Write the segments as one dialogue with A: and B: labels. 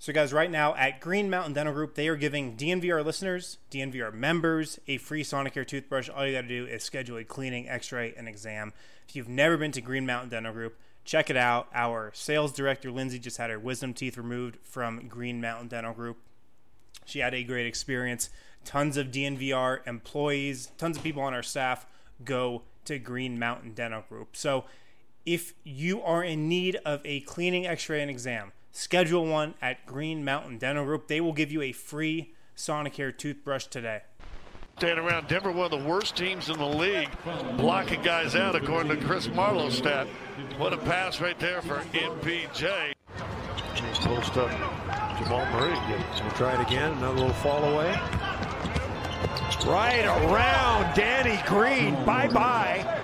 A: So guys, right now at Green Mountain Dental Group, they are giving DNVR listeners, DNVR members, a free Sonicare toothbrush. All you got to do is schedule a cleaning, x-ray, and exam. If you've never been to Green Mountain Dental Group, check it out. Our sales director, Lindsay, just had her wisdom teeth removed from Green Mountain Dental Group. She had a great experience. Tons of DNVR employees, tons of people on our staff go to Green Mountain Dental Group. So if you are in need of a cleaning, x-ray, and exam, schedule one at Green Mountain Dental Group. They will give you a free Sonicare toothbrush today.
B: Staying around Denver, one of the worst teams in the league, blocking guys out according to Chris Marlowe's stat. What a pass right there for MPJ.
C: Post up Jamal Murray. We'll try it again. Another little fall away. Right around Danny Green. Bye-bye.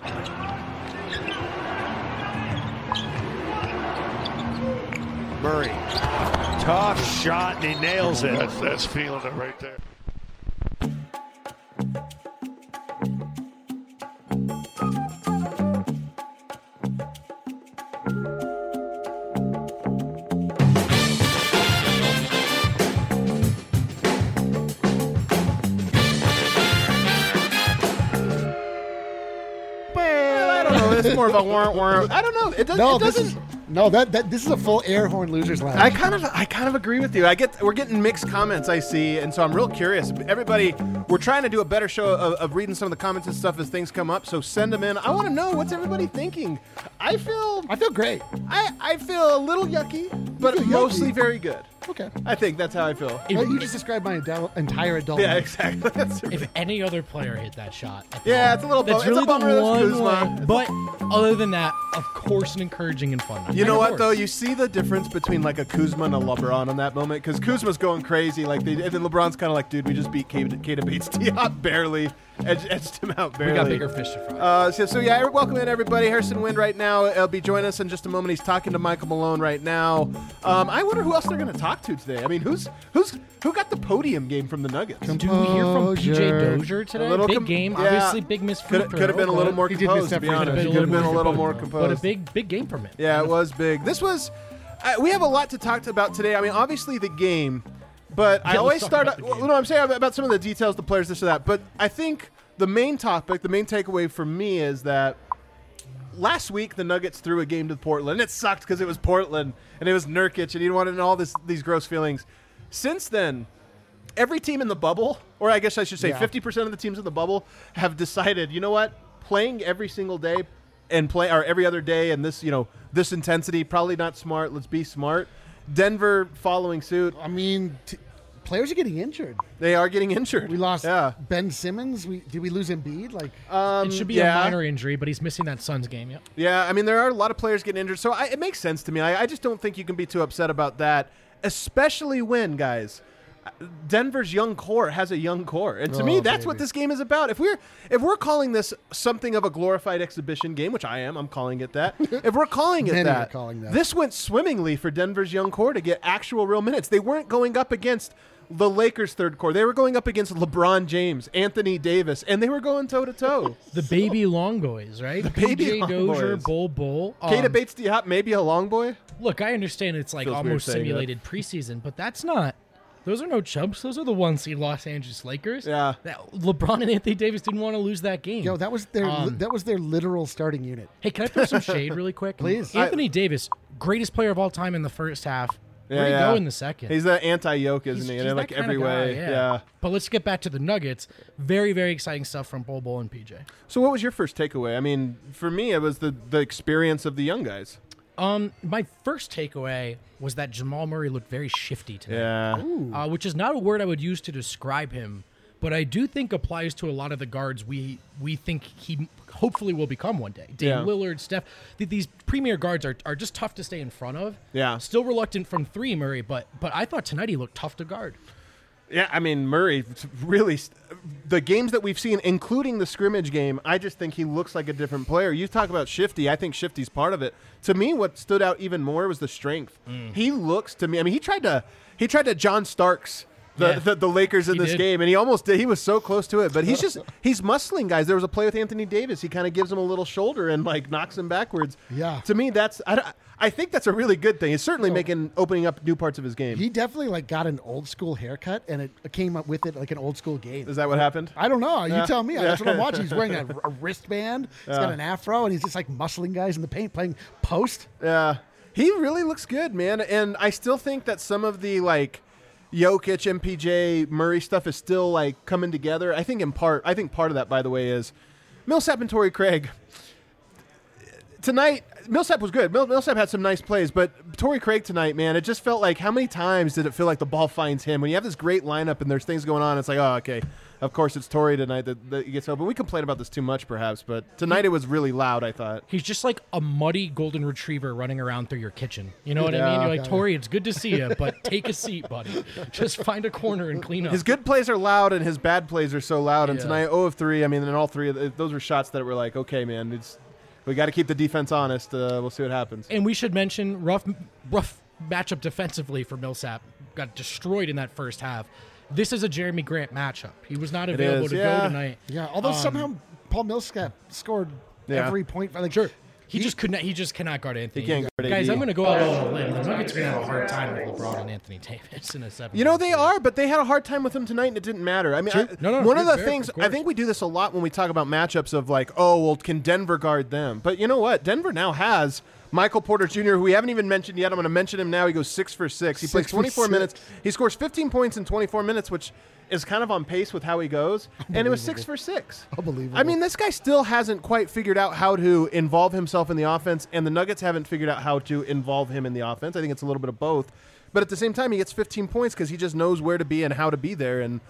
C: Murray, tough shot, and he nails it.
B: That's feeling it right there.
D: I don't know. It's more of a warrant. I don't know. It doesn't.
E: This is a full air horn losers lounge.
D: I kind of agree with you. We're getting mixed comments, I see, and so I'm real curious. Everybody, we're trying to do a better show of reading some of the comments and stuff as things come up. So send them in. I want to know what's everybody thinking. I feel great. I feel a little yucky, but mostly very good.
E: Okay.
D: I think that's how I feel.
E: You just described my entire adult
D: Yeah,
E: life.
D: exactly.
F: If any other player hit that shot,
D: Yeah, it's a little
F: that's
D: bummer.
F: really
D: It's a bummer
F: the
D: that's
F: one
D: Kuzma.
F: way. But other than that, of course, an encouraging and fun.
D: You know
F: Of
D: what,
F: course.
D: though? You see the difference between, like, a Kuzma and a LeBron on that moment? Because Kuzma's going crazy. And then LeBron's kind of like, dude, we just beat Keita Bates-Diop barely. Edged him out barely.
F: We got bigger fish to fry.
D: So welcome in, everybody. Harrison Wind right now. He'll be joining us in just a moment. He's talking to Michael Malone right now. I wonder who else they're going to talk to today. I mean, who got the podium game from the Nuggets?
F: Do we hear from PJ Dozier today? Big game.
D: yeah.
F: Obviously, big miss free throw.
D: Could have been a little more
E: He did
D: composed,
E: miss
D: to
E: that
D: be
E: free throw.
D: honest. He could have been a little more composed.
F: But a big game from him.
D: Yeah, it was big. This was. We have a lot to talk about today. I mean, obviously the game, but I always start. I'm saying about some of the details, the players, this or that. But I think the main topic, the main takeaway for me is that last week the Nuggets threw a game to Portland. It sucked because it was Portland and it was Nurkic and he wanted all these gross feelings. Since then, every team in the bubble, or I guess I should say 50% of the teams in the bubble, have decided, you know what, playing every single day and every other day and this intensity, probably not smart. Let's be smart. Denver following suit.
E: I mean, players are getting injured.
D: They are getting injured.
E: We lost Ben Simmons. Did we lose Embiid?
F: It should be a minor injury, but he's missing that Suns game. Yep.
D: Yeah, I mean, there are a lot of players getting injured, so it makes sense to me. I just don't think you can be too upset about that, especially when, guys, Denver's young core has a young core, and to me, that's what this game is about. If we're calling this something of a glorified exhibition game, which I'm calling it that. If we're calling it that, this went swimmingly for Denver's young core to get actual real minutes. They weren't going up against the Lakers' third core. They were going up against LeBron James, Anthony Davis, and they were going toe-to-toe.
F: The baby long boys, right?
D: The baby
F: PJ
D: long
F: Dozier,
D: boys.
F: Bull.
D: Keita Bates-Diop, maybe a long boy?
F: Look, I understand it's like almost simulated preseason, but that's not. Those are no chumps. Those are the one seed Los Angeles Lakers.
D: Yeah.
F: LeBron and Anthony Davis didn't want to lose that game.
E: Yo, that was their literal starting unit.
F: Hey, can I throw some shade really quick?
E: Please.
F: Anthony Davis, greatest player of all time in the first half. Where do you go in the second?
D: He's the anti-yoke, isn't he?
F: He's
D: In like every way. Yeah.
F: But let's get back to the Nuggets. Very, very exciting stuff from Bol and PJ.
D: So what was your first takeaway? I mean, for me, it was the experience of the young guys.
F: My first takeaway was that Jamal Murray looked very shifty today.
D: Yeah.
F: Which is not a word I would use to describe him, but I do think applies to a lot of the guards we think he hopefully will become one day. Dame Lillard, Steph. These premier guards are just tough to stay in front of.
D: Yeah.
F: Still reluctant from three, Murray, but I thought tonight he looked tough to guard.
D: Yeah, I mean, Murray, really, the games that we've seen, including the scrimmage game, I just think he looks like a different player. You talk about shifty. I think shifty's part of it. To me, what stood out even more was the strength. He looks to me, I mean, he tried to John Starks the Lakers in this
F: did.
D: game, and he almost did. He was so close to it, but he's muscling guys. There was a play with Anthony Davis. He kind of gives him a little shoulder and like knocks him backwards.
E: Yeah.
D: To me, I think that's a really good thing. It's certainly opening up new parts of his game.
E: He definitely like got an old school haircut, and it came up with it like an old school game.
D: Is that what happened?
E: I don't know. You tell me. That's what I'm watching. He's wearing a wristband. He's got an afro, and he's just like muscling guys in the paint, playing post.
D: Yeah. He really looks good, man. And I still think that some of the like Jokic, MPJ, Murray stuff is still like coming together. I think part of that, by the way, is Millsap and Torrey Craig. Tonight, Millsap was good. Millsap had some nice plays, but Torrey Craig tonight, man, it just felt like how many times did it feel like the ball finds him? When you have this great lineup and there's things going on, it's like, oh, okay, of course it's Torrey tonight that he gets open. We complain about this too much, perhaps, but tonight it was really loud, I thought.
F: He's just like a muddy golden retriever running around through your kitchen. You know what I mean? You're like, Torrey, it's good to see you, but take a seat, buddy. Just find a corner and clean up.
D: His good plays are loud, and his bad plays are so loud. And tonight, 0 of 3. I mean, and all three of those were shots that were like, okay, man, we got to keep the defense honest. We'll see what happens.
F: And we should mention rough matchup defensively for Millsap. Got destroyed in that first half. This is a Jeremy Grant matchup. He was not available to go tonight.
E: Yeah, although somehow Paul Millsap scored every point. Like,
F: sure. He just cannot guard Anthony.
D: He can't guard
F: Guys,
D: AD.
F: I'm going to go out on a limb. The Nuggets are going to have a hard time with LeBron and Anthony Davis in a 7.
D: You know, they are, but they had a hard time with him tonight, and it didn't matter. I mean, one of the things, I think we do this a lot when we talk about matchups of like, oh, well, can Denver guard them? But you know what? Denver now has Michael Porter Jr., who we haven't even mentioned yet. I'm going to mention him now. He goes 6 for 6. He plays 24 minutes. He scores 15 points in 24 minutes, which is kind of on pace with how he goes. And it was 6 for 6.
E: Unbelievable.
D: I mean, this guy still hasn't quite figured out how to involve himself in the offense, and the Nuggets haven't figured out how to involve him in the offense. I think it's a little bit of both. But at the same time, he gets 15 points because he just knows where to be and how to be there. And,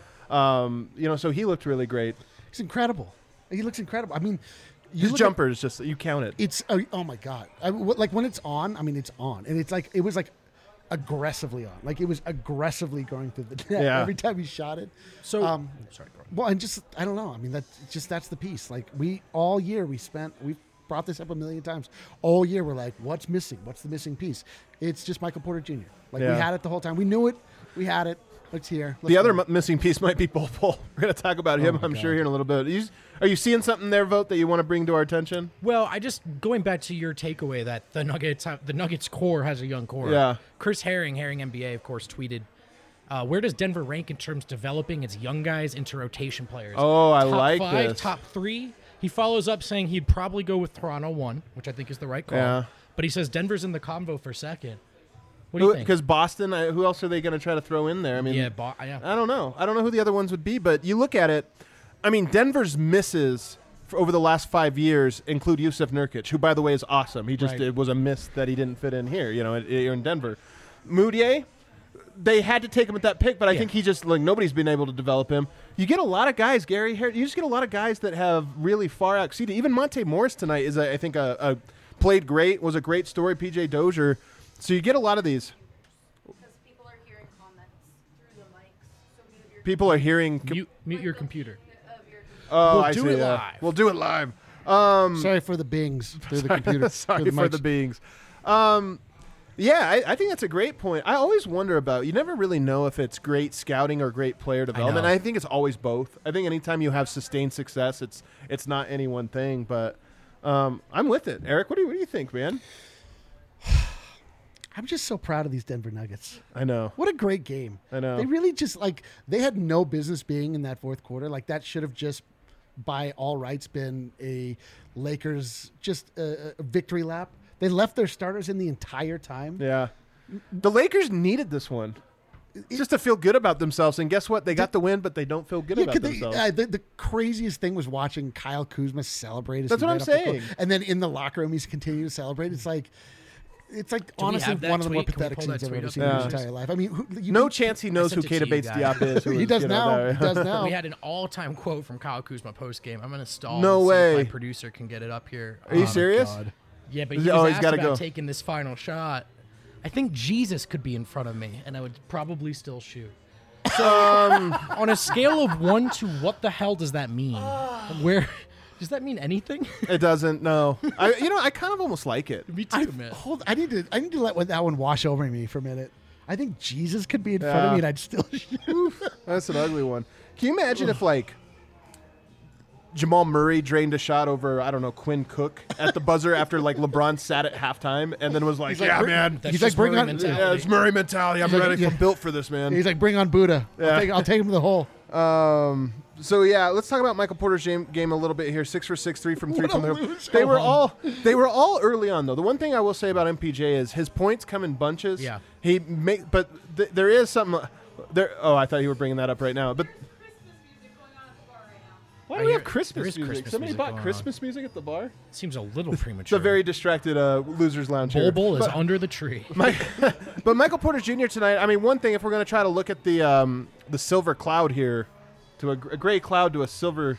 D: so he looked really great.
E: He's incredible. He looks incredible. I mean,
D: His jumper is just, you count it.
E: It's, oh my God. Like when it's on, I mean, it's on. And it's like, it was like aggressively on. Like it was aggressively going through the net every time he shot it.
F: So, sorry, bro.
E: Well, and just, I don't know. I mean, that's the piece. Like all year we've brought this up a million times. All year we're like, what's missing? What's the missing piece? It's just Michael Porter Jr. Like we had it the whole time. We knew it. We had it. It's here.
D: The other missing piece might be Bol Bol. We're going to talk about him, I'm sure, here in a little bit. Are you seeing something there, Vogt, that you want to bring to our attention?
F: Well, going back to your takeaway that the Nuggets core has a young core.
D: Yeah.
F: Chris Herring NBA, of course, tweeted, where does Denver rank in terms of developing its young guys into rotation players?
D: Oh, I
F: top
D: like
F: 5,
D: this.
F: Top 3. He follows up saying he'd probably go with Toronto 1, which I think is the right call.
D: Yeah.
F: But he says Denver's in the combo for second. What do you think?
D: Because Boston, who else are they going to try to throw in there? I mean,
F: yeah.
D: I don't know. I don't know who the other ones would be, but you look at it. I mean, Denver's misses over the last 5 years include Yusuf Nurkic, who, by the way, is awesome. It was a miss that he didn't fit in here, in Denver. Moutier, they had to take him at that pick, but I think he just, nobody's been able to develop him. You get a lot of guys, Gary, you just get a lot of guys that have really far exceeded. Even Monte Morris tonight is, I think, played great, was a great story, PJ Dozier. So you get a lot of these.
G: Because people are hearing comments through the mics. So
D: People are hearing.
F: Mute your computer.
D: Oh,
F: We'll do it live.
D: We'll do it live.
E: Sorry for the bings through the computer.
D: Sorry for the beings. Yeah, I think that's a great point. I always wonder about, you never really know if it's great scouting or great player development. I think it's always both. I think anytime you have sustained success, it's not any one thing. But I'm with it. Eric, what do you think, man?
E: I'm just so proud of these Denver Nuggets.
D: I know.
E: What a great game.
D: I know.
E: They really just, they had no business being in that fourth quarter. That should have just, by all rights, been a Lakers, just a victory lap. They left their starters in the entire time.
D: Yeah. The Lakers needed this one. Just to feel good about themselves. And guess what? They got the win, but they don't feel good about themselves.
E: The craziest thing was watching Kyle Kuzma celebrate.
D: That's what I'm saying.
E: And then in the locker room, he's continuing to celebrate. It's like honestly one of the more pathetic scenes I've ever seen in my entire life. I mean,
D: no chance he knows who Keita Bates-Diop is.
E: He does now. He does now.
F: We had an all-time quote from Kyle Kuzma post-game. I'm going to stall.
D: No way.
F: See if my producer can get it up here.
D: Are you serious?
F: God. Yeah, but he was asked
D: gotta
F: about
D: go.
F: taking this final shot. I think Jesus could be in front of me, and I would probably still shoot. So, on a scale of 1 to what the hell does that mean? Where does that mean anything?
D: It doesn't. No. I kind of almost like it.
F: Me too, man.
E: I need to let that one wash over me for a minute. I think Jesus could be in front of me and I'd still shoot.
D: That's an ugly one. Can you imagine if, like, Jamal Murray drained a shot over, I don't know, Quinn Cook at the buzzer after, like, LeBron sat at halftime and then was like, man.
F: He's like, bring on mentality.
D: Yeah, it's Murray mentality. I'm ready. I'm built for this, man.
E: He's like, bring on Buddha. I'll take him to the hole.
D: So yeah, let's talk about Michael Porter's game a little bit here. 6 for 6, 3 from 3 from the. They were all early on though. The one thing I will say about MPJ is his points come in bunches.
F: Yeah.
D: There is something there. Oh, I thought you were bringing that up right now. But why do we have Christmas music?
F: Christmas
D: Somebody
F: music
D: bought
F: going
D: Christmas music at the bar.
F: Seems a little premature.
D: It's a very distracted losers lounge here.
F: Bull is under the tree.
D: But Michael Porter Jr. tonight. I mean, one thing if we're going to try to look at the silver cloud here. To a gray cloud to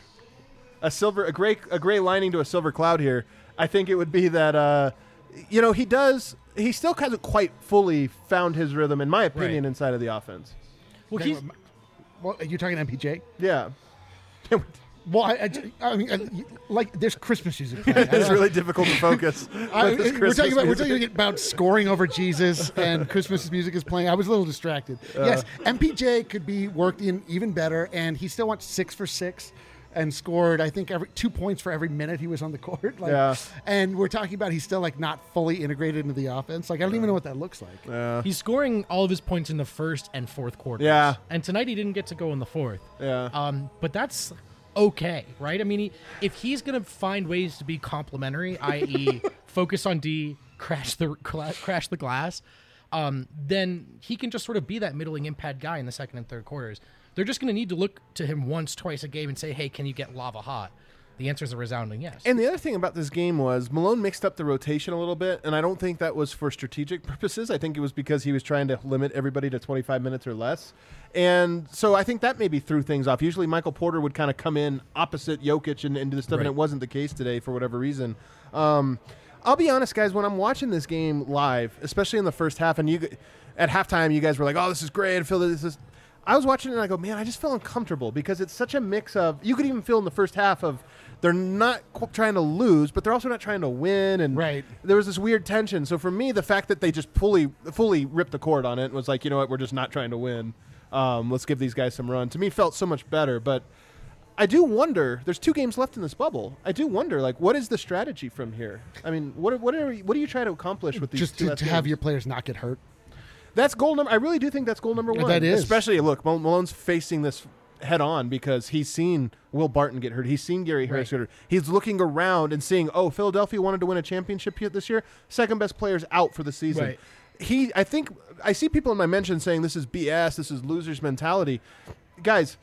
D: a gray lining to a silver cloud here. I think it would be that he still hasn't quite fully found his rhythm, in my opinion, inside of the offense.
E: Well, are you talking MPJ?
D: Yeah.
E: Well, I mean, like, there's Christmas music playing.
D: It's really difficult to focus.
E: We're talking about scoring over Jesus, and Christmas music is playing. I was a little distracted. Yes, MPJ could be worked in even better, and he still went 6 for 6 and scored, I think, 2 points for every minute he was on the court. And we're talking about he's still, like, not fully integrated into the offense. Like, I don't even know what that looks like.
F: He's scoring all of his points in the first and fourth quarters.
D: Yeah.
F: And tonight he didn't get to go in the fourth.
D: Yeah.
F: But that's okay, right? I mean, if he's going to find ways to be complementary, i.e. focus on D, crash the glass, then he can just sort of be that middling impact guy in the second and third quarters. They're just going to need to look to him once, twice a game and say, hey, can you get lava hot? The answer is a resounding yes.
D: And the other thing about this game was Malone mixed up the rotation a little bit, and I don't think that was for strategic purposes. I think it was because he was trying to limit everybody to 25 minutes or less. And so I think that maybe threw things off. Usually Michael Porter would kind of come in opposite Jokic and do this stuff, and it wasn't the case today for whatever reason. I'll be honest, guys, when I'm watching this game live, especially in the first half, and at halftime you guys were like, oh, this is great. I feel this is... I was watching it and I go, man, I just feel uncomfortable because it's such a mix of, you could even feel in the first half of, they're not trying to lose, but they're also not trying to win. And there was this weird tension. So for me, the fact that they just fully ripped the cord on it and was like, you know what, we're just not trying to win. Let's give these guys some run. To me, felt so much better. But I do wonder, there's 2 games left in this bubble. I do wonder, like, what is the strategy from here? I mean, what do you try to accomplish with these
E: just to have your players not get hurt?
D: That's goal number. I really do think that's goal number 1.
E: That is.
D: Especially, look, Malone's facing this head on because he's seen Will Barton get hurt. He's seen Gary Harris get hurt. He's looking around and seeing, oh, Philadelphia wanted to win a championship this year. Second best player's out for the season. Right. I think I see people in my mentions saying this is BS. This is losers mentality. Guys,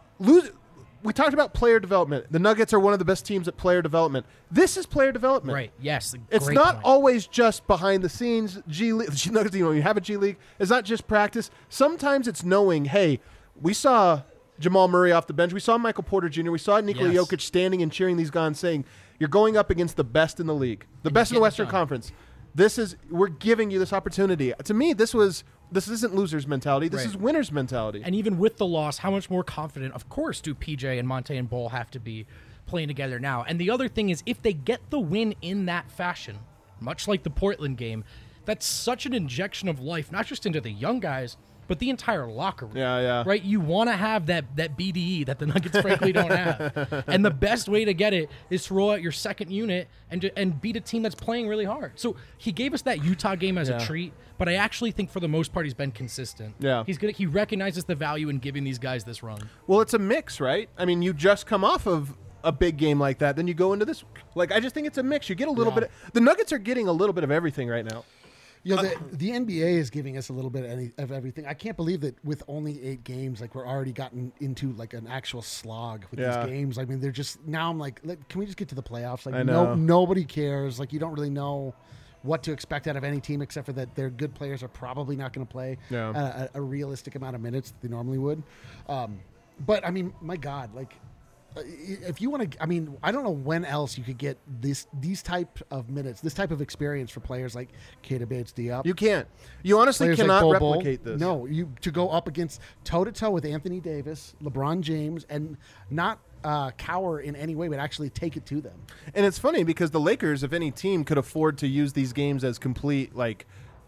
D: we talked about player development. The Nuggets are one of the best teams at player development. This is player development.
F: Right, yes.
D: It's not always just behind the scenes. G League, Nuggets, you have a G League. It's not just practice. Sometimes it's knowing, hey, we saw Jamal Murray off the bench. We saw Michael Porter Jr. We saw Nikola Jokic standing and cheering these guys saying, you're going up against the best in the league, the best in the Western Conference. We're giving you this opportunity. To me, this isn't losers mentality. This is winners mentality.
F: And even with the loss, how much more confident, of course, do PJ and Monte and Bol have to be playing together now? And the other thing is, if they get the win in that fashion, much like the Portland game, that's such an injection of life, not just into the young guys, but the entire locker room.
D: Yeah.
F: Right? You want to have that BDE that the Nuggets frankly don't have. And the best way to get it is to roll out your second unit and beat a team that's playing really hard. So he gave us that Utah game as a treat, but I actually think for the most part he's been consistent.
D: Yeah.
F: He recognizes the value in giving these guys this run.
D: Well, it's a mix, right? I mean, you just come off of a big game like that, then you go into this. Like, I just think it's a mix. You get a little bit. The Nuggets are getting a little bit of everything right now.
E: You know, the NBA is giving us a little bit of everything. I can't believe that with only 8 games, like, we're already gotten into like an actual slog with these games. I mean, they're just now. I'm like, can we just get to the playoffs? Like, nobody cares. Like, you don't really know what to expect out of any team except for that their good players are probably not going to play a realistic amount of minutes that they normally would. But I mean, my God, like, if you want to, I mean, I don't know when else you could get these type of minutes, this type of experience for players like Keita Bates-Diop.
D: You can't. You honestly
E: players
D: cannot
E: like Bol
D: replicate this.
E: No, to go up against toe-to-toe with Anthony Davis, LeBron James, and not cower in any way, but actually take it to them.
D: And it's funny because the Lakers, if any team, could afford to use these games as complete, like,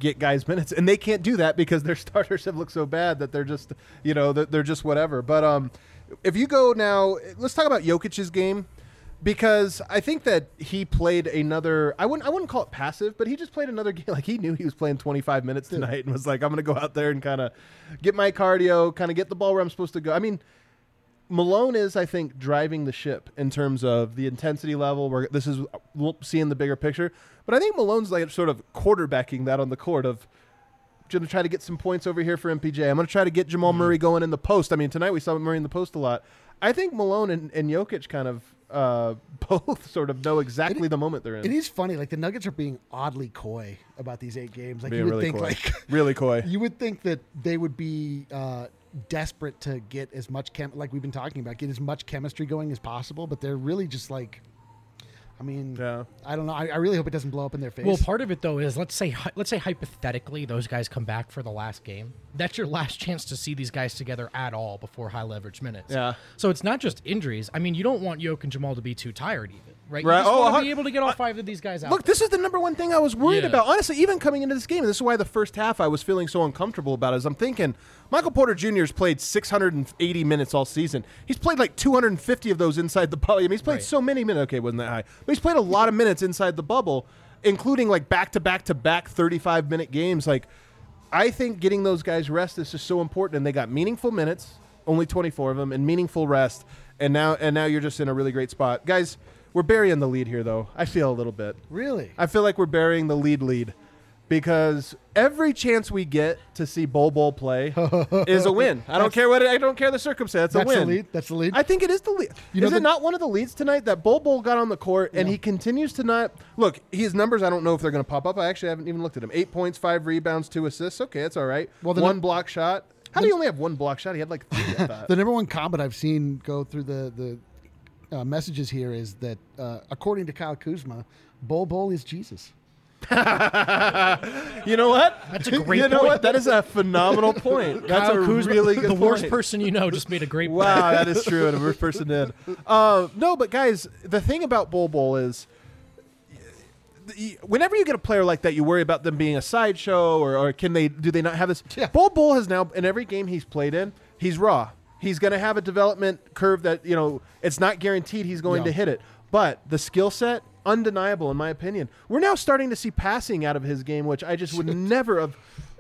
D: get guys minutes, and they can't do that because their starters have looked so bad that they're just, they're just whatever. But if you go now, let's talk about Jokic's game, because I think that he played another. I wouldn't call it passive, but he just played another game. Like he knew he was playing 25 minutes tonight, and was like, I'm going to go out there and kind of get my cardio, kind of get the ball where I'm supposed to go. I mean, Malone is, I think, driving the ship in terms of the intensity level. Where this is seeing the bigger picture, but I think Malone's like sort of quarterbacking that on the court of going to try to get some points over here for MPJ. I'm going to try to get Jamal Murray going in the post. I mean, tonight we saw Murray in the post a lot. I think Malone and Jokic kind of both sort of know exactly the moment they're in.
E: It is funny, like the Nuggets are being oddly coy about these 8 games. Like
D: being
E: you would
D: really
E: think,
D: coy.
E: like
D: really coy.
E: You would think that they would be desperate to get as much like we've been talking about, get as much chemistry going as possible, but they're really just like. I mean, I don't know. I really hope it doesn't blow up in their face.
F: Well, part of it though is let's say hypothetically those guys come back for the last game. That's your last chance to see these guys together at all before high leverage minutes.
D: Yeah.
F: So it's not just injuries. I mean, you don't want Jokic and Jamal to be too tired even, right?
D: Right.
F: You just want to be able to get all 5 of these guys out.
D: Look, this is the number one thing I was worried about. Honestly, even coming into this game, and this is why the first half I was feeling so uncomfortable about it, is I'm thinking Michael Porter Jr. has played 680 minutes all season. He's played like 250 of those inside the bubble. I mean, he's played so many minutes. Okay, it wasn't that high. But he's played a lot of minutes inside the bubble, including like back-to-back 35-minute games. Like, I think getting those guys rest is just so important, and they got meaningful minutes, only 24 of them, and meaningful rest, and now you're just in a really great spot. Guys, we're burying the lead here, though. I feel a little bit.
E: Really?
D: I feel like we're burying the lead because every chance we get to see Bol play is a win. I don't care the circumstance. It's a win.
E: That's the lead.
D: I think it is the lead. Is it not one of the leads tonight that Bol got on the court and he continues to not look? His numbers, I don't know if they're going to pop up. I actually haven't even looked at him. 8 points, 5 rebounds, 2 assists. Okay, that's all right. Well, one block shot. How do you only have one block shot? He had like 3. I thought.
E: The number one comment I've seen go through the messages here is that according to Kyle Kuzma, Bol is Jesus.
D: You know what?
F: That's a great point.
D: You know what? That is a phenomenal point. That's
F: Kyle
D: a
F: Kuzma,
D: really good
F: the
D: point.
F: worst person you know just made a great point.
D: Wow, that is true. The worst person did. No, but guys, the thing about Bol is whenever you get a player like that, you worry about them being a sideshow or do they not have this?
E: Yeah.
D: Bol has now, in every game he's played in, he's raw. He's going to have a development curve that, it's not guaranteed he's going to hit it. But the skill set, undeniable in my opinion. We're now starting to see passing out of his game, which I just would never have.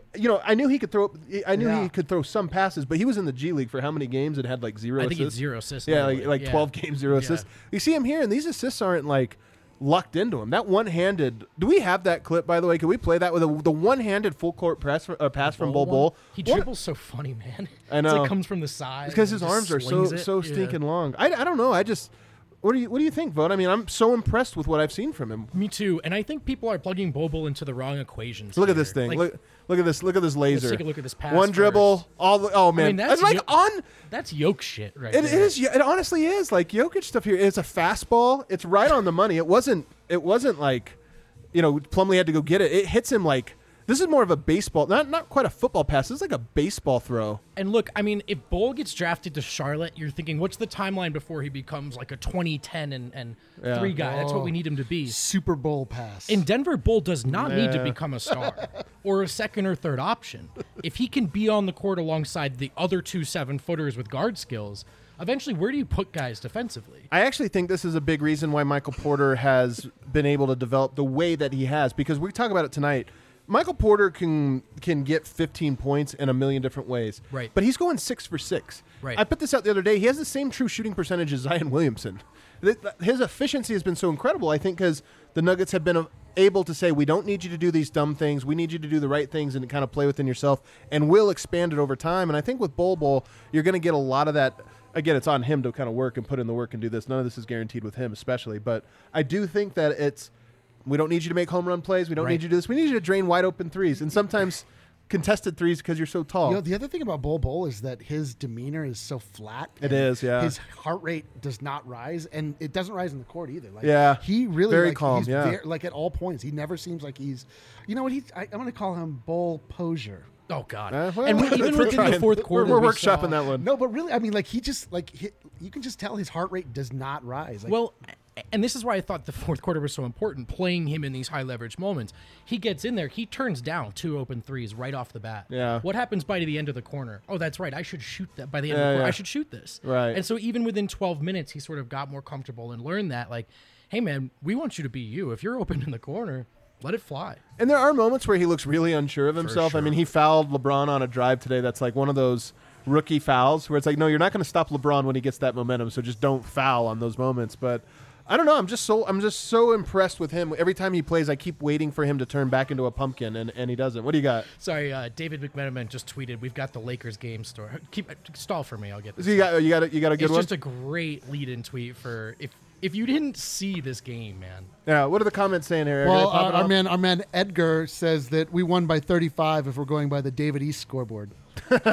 D: I knew he could throw. I knew he could throw some passes, but he was in the G League for how many games and had like 0 assists?
F: I think it's 0 assists.
D: Yeah, like 12 games, 0 assists. You see him here, and these assists aren't like lucked into him. That one-handed. Do we have that clip, by the way? Can we play that with the one-handed full court pass from Bol?
F: He dribbles so funny, man.
D: I know.
F: It's like comes from the side.
D: Because his arms are so stinking long. I don't know. What do you think, Vaughn? I mean, I'm so impressed with what I've seen from him.
F: Me too. And I think people are plugging Bol into the wrong equations.
D: Look at this thing. Look at this. Look at this laser.
F: Let's take a look at this pass.
D: One dribble.
F: I mean,
D: that's
F: that's Jokic shit, right?
D: It is. It honestly is like Jokic stuff here. It's a fastball. It's right on the money. It wasn't like, Plumlee had to go get it. It hits him like. This is more of a baseball, not quite a football pass. This is like a baseball throw.
F: And look, I mean, if Bol gets drafted to Charlotte, you're thinking, what's the timeline before he becomes like a 2010 and 3 guy? That's what we need him to be.
E: Super Bowl pass.
F: In Denver, Bol does not need to become a star or a second or third option. If he can be on the court alongside the other 2 7-footers with guard skills, eventually, where do you put guys defensively?
D: I actually think this is a big reason why Michael Porter has been able to develop the way that he has, because we talk about it tonight. Michael Porter can get 15 points in a million different ways.
F: Right.
D: But he's going 6 for 6.
F: Right.
D: I put this out the other day. He has the same true shooting percentage as Zion Williamson. His efficiency has been so incredible, I think, because the Nuggets have been able to say, we don't need you to do these dumb things. We need you to do the right things and kind of play within yourself, and we'll expand it over time. And I think with Bol, you're going to get a lot of that. Again, it's on him to kind of work and put in the work and do this. None of this is guaranteed with him especially. But I do think that we don't need you to make home run plays. We don't need you to do this. We need you to drain wide open threes. And sometimes contested threes because you're so tall.
E: The other thing about Bol is that his demeanor is so flat.
D: It is, yeah.
E: His heart rate does not rise, and it doesn't rise in the court either. He really
D: very calm. He's
E: at all points. He never seems like he's. You know what? I'm going to call him Bol Posure.
F: Oh God!
D: Well,
F: and even within the fourth quarter,
D: we're workshopping that one.
E: No, but really, I mean, like he just you can just tell his heart rate does not rise.
F: Well, and this is why I thought the fourth quarter was so important, playing him in these high leverage moments. He gets in there, he turns down 2 open threes right off the bat.
D: Yeah.
F: What happens by the end of the corner? Oh, that's right. I should shoot that by the end of the corner. I should shoot this.
D: Right.
F: And so even within 12 minutes, he sort of got more comfortable and learned that, like, hey, man, we want you to be you. If you're open in the corner, let it fly.
D: And there are moments where he looks really unsure of himself.
F: sure.
D: I mean, he fouled LeBron on a drive today. That's like one of those rookie fouls where it's like, no, you're not going to stop LeBron when he gets that momentum, so just don't foul on those moments. But I don't know. I'm just so impressed with him. Every time he plays, I keep waiting for him to turn back into a pumpkin, and he doesn't. What do you got?
F: Sorry, David McMenamin just tweeted, "We've got the Lakers game store." Stall for me. I'll get this.
D: So you got a good
F: It's
D: one?
F: just a great lead-in tweet for if you didn't see this game, man.
D: Yeah. What are the comments saying here?
E: Well, our man Edgar says that we won by 35 if we're going by the David East scoreboard.
D: It's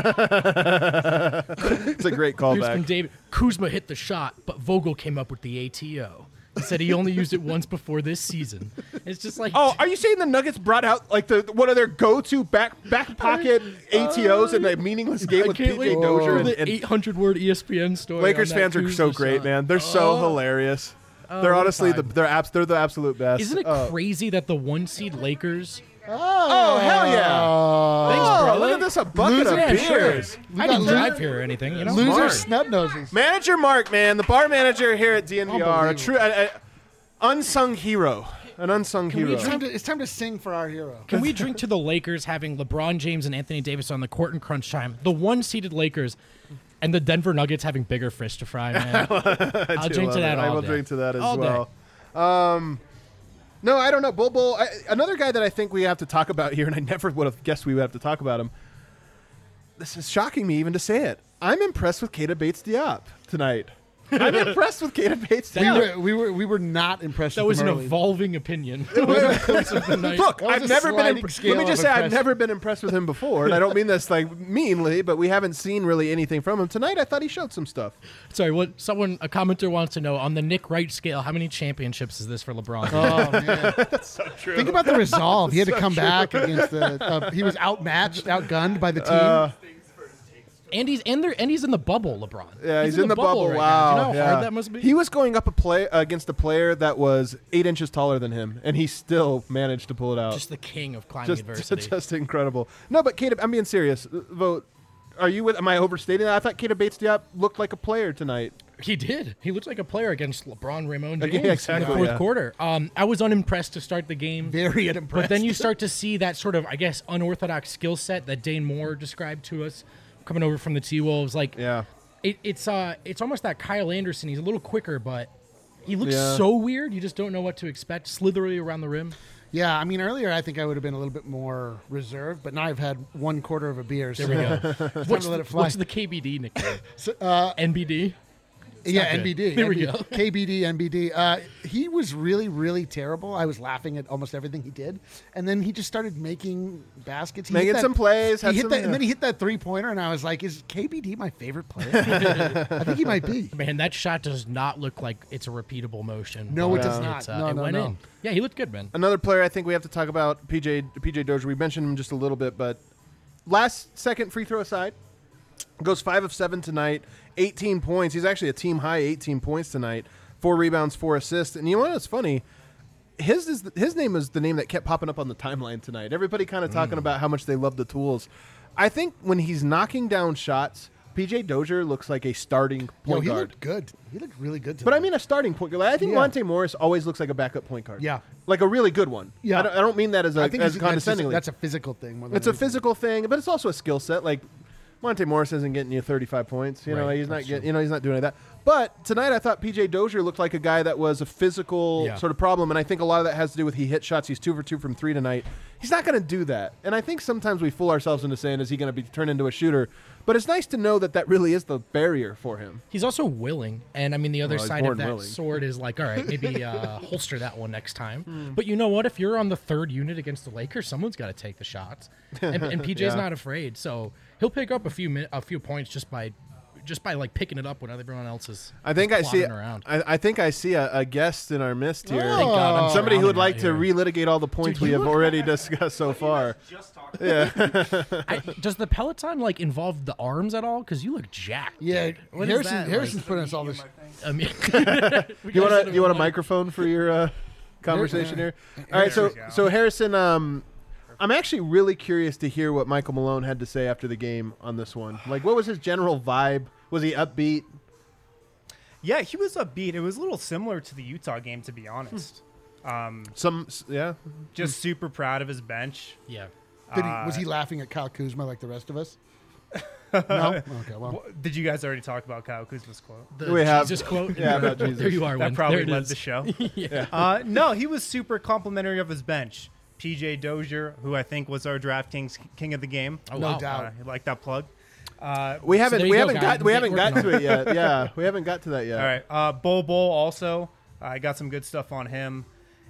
D: a great
F: Here's from
D: callback.
F: David. Kuzma hit the shot, but Vogel came up with the ATO. He said he only used it once before this season. It's just like,
D: Oh, are you saying the Nuggets brought out like one of their go-to back pocket ATOs in a meaningless game with
F: can't
D: PJ
F: wait
D: Dozier
F: for the
D: and
F: 800-word ESPN story.
D: Lakers
F: on that
D: fans are so
F: Kuzma
D: great,
F: shot.
D: man. They're so hilarious. They're honestly
F: time.
D: they're the absolute best.
F: Isn't it crazy that the 1 seed Lakers?
D: Oh hell yeah!
F: Thanks,
D: Oh,
F: brother.
D: look at this, a bucket of
F: Yeah, sure.
D: beers.
F: I didn't drive here or anything, you know.
E: Loser
D: Mark.
E: snub noses.
D: Manager Mark, man, the bar manager here at DNVR, a
E: Unbelievable.
D: true unsung hero, an unsung hero.
E: It's time to sing for our hero.
F: Can we drink to the Lakers having LeBron James and Anthony Davis on the court in crunch time? The 1-seeded Lakers and the Denver Nuggets having bigger fish to fry, man. I'll drink to that all
D: I will
F: day.
D: drink to that as
F: All day.
D: well. No, I don't know. Bull. Another guy that I think we have to talk about here, and I never would have guessed we would have to talk about him. This is shocking me even to say it. I'm impressed with Keita Bates-Diop tonight. I'm impressed with Keita Bates-Diop.
E: We were not impressed.
F: That
E: with
F: was
E: him
F: an
E: early.
F: evolving opinion. over the course of the night.
D: Look,
E: That was
D: I've
E: a
D: never been.
E: sliding scale
D: Let me just
E: of
D: say, I've
E: impressed.
D: never been impressed with him before, and I don't mean this like meanly, but we haven't seen really anything from him tonight. I thought he showed some stuff.
F: Sorry, a commenter wants to know, on the Nick Wright scale, how many championships is this for LeBron?
E: Oh man, that's so true. Think about the resolve. He had to come back against the. He was outmatched, outgunned by the team.
F: And he's in the bubble, LeBron.
D: Yeah, he's in the bubble.
F: right
D: Wow.
F: now. Do you know how
D: yeah.
F: hard that must be?
D: He was going up against a player that was 8 inches taller than him, and he still managed to pull it out.
F: Just the king of climbing adversity.
D: Just incredible. No, but Keita, I'm being serious. Vote. Am I overstating that? I thought Keita Bates-Diop looked like a player tonight.
F: He did. He looked like a player against LeBron Ramon James
D: Yeah, exactly,
F: in the fourth
D: yeah.
F: quarter. I was unimpressed to start the game.
E: Very unimpressed.
F: But then you start to see that sort of, I guess, unorthodox skill set that Dane Moore described to us coming over from the T-Wolves. Like,
D: Yeah.
F: it's almost that Kyle Anderson. He's a little quicker, but he looks
D: Yeah.
F: so weird. You just don't know what to expect. Slithery around the rim.
E: Yeah, I mean, earlier I think I would have been a little bit more reserved, but now I've had 1/4 of a beer.
F: There we go.
E: What's
F: What's,
E: let it fly.
F: what's the KBD nickname? NBD?
E: Yeah,
F: not good.
E: NBD.
F: There we go.
E: KBD, NBD. He was really, really terrible. I was laughing at almost everything he did, and then he just started making baskets. He
D: Making
E: hit that-
D: some plays, had
E: He hit
D: some-
E: that, and then he hit that 3-pointer, and I was like, "Is KBD my favorite player?" I think he might be.
F: Man, that shot does not look like it's a repeatable motion.
E: No,
F: but
E: it does
F: it's,
E: not. No,
F: it
E: no,
F: went
E: no.
F: in. Yeah, he looked good, man.
D: Another player I think we have to talk about, PJ Dozier. We mentioned him just a little bit, but last second free throw aside, goes 5 of 7 tonight, 18 points. He's actually a team high 18 points tonight, 4 rebounds, 4 assists. And you know what's funny? His name is the name that kept popping up on the timeline tonight. Everybody kind of talking about how much they love the tools. I think when he's knocking down shots, PJ Dozier looks like a starting point
E: He
D: guard.
E: looked good. He looked really good.
D: But I
E: tonight.
D: mean a starting point guard. I think
E: Yeah.
D: Monte Morris always looks like a backup point guard.
E: Yeah.
D: Like a really good one.
E: Yeah.
D: I don't mean that as
E: I think
D: as
E: that's
D: condescendingly.
E: a physical thing. More than
D: It's a
E: anything.
D: physical thing, but it's also a skill set. Like Monte Morris isn't getting you 35 points. You know,
F: Right,
D: he's not
F: that's
D: getting. You know, he's not doing any of that. But tonight, I thought PJ Dozier looked like a guy that was a physical
F: Yeah.
D: sort of problem, and I think a lot of that has to do with he hit shots. He's 2 for 2 from 3 tonight. He's not going to do that, and I think sometimes we fool ourselves into saying, "Is he going to be turned into a shooter?" But it's nice to know that that really is the barrier for him.
F: He's also willing, and I mean the other
D: Well, he's
F: side
D: born
F: of that
D: willing.
F: sword is like, all right, maybe holster that one next time. But you know what? If you're on the third unit against the Lakers, someone's got to take the shots, and PJ's
D: Yeah.
F: not afraid, so he'll pick up a few points just just by like picking it up when everyone else is.
D: I think I see.
F: Around.
D: I think I see a guest in our midst here.
F: Thank God, I'm
D: Somebody who would like
F: surrounded
D: to
F: right
D: relitigate all the points
F: Dude,
D: we
F: you
D: have
F: look-
D: already discussed so far. Yeah.
F: Does the Peloton like involve the arms at all? Because you look jacked.
E: Yeah,
F: What is that,
E: Harrison's putting us all this.
F: I mean,
D: You want a microphone for your conversation here? All right,
A: There we
D: so
A: go.
D: Harrison, I'm actually really curious to hear what Michael Malone had to say after the game on this one. Like, what was his general vibe? Was he upbeat?
A: Yeah, he was upbeat. It was a little similar to the Utah game, to be honest.
D: Yeah.
A: Just super proud of his bench.
F: yeah.
E: Was he laughing at Kyle Kuzma like the rest of us? No. Okay. Well,
A: Did you guys already talk about Kyle Kuzma's quote?
F: The
D: We have-
F: Jesus quote.
D: Yeah, about Jesus.
F: There you are.
A: That
F: Win.
A: probably
F: There it
A: led
F: is.
A: the show.
F: Yeah.
A: No, he was super complimentary of his bench. PJ Dozier, who I think was our DraftKings king of the game.
F: Oh,
E: No
F: wow.
E: doubt.
A: You like that plug?
D: We haven't
F: there you
D: we
F: go,
D: haven't
F: guys.
D: got we haven't
F: Get
D: got
F: working
D: to it yet. Yeah, we haven't got to that yet.
A: All right. Bol Bol also. I got some good stuff on him.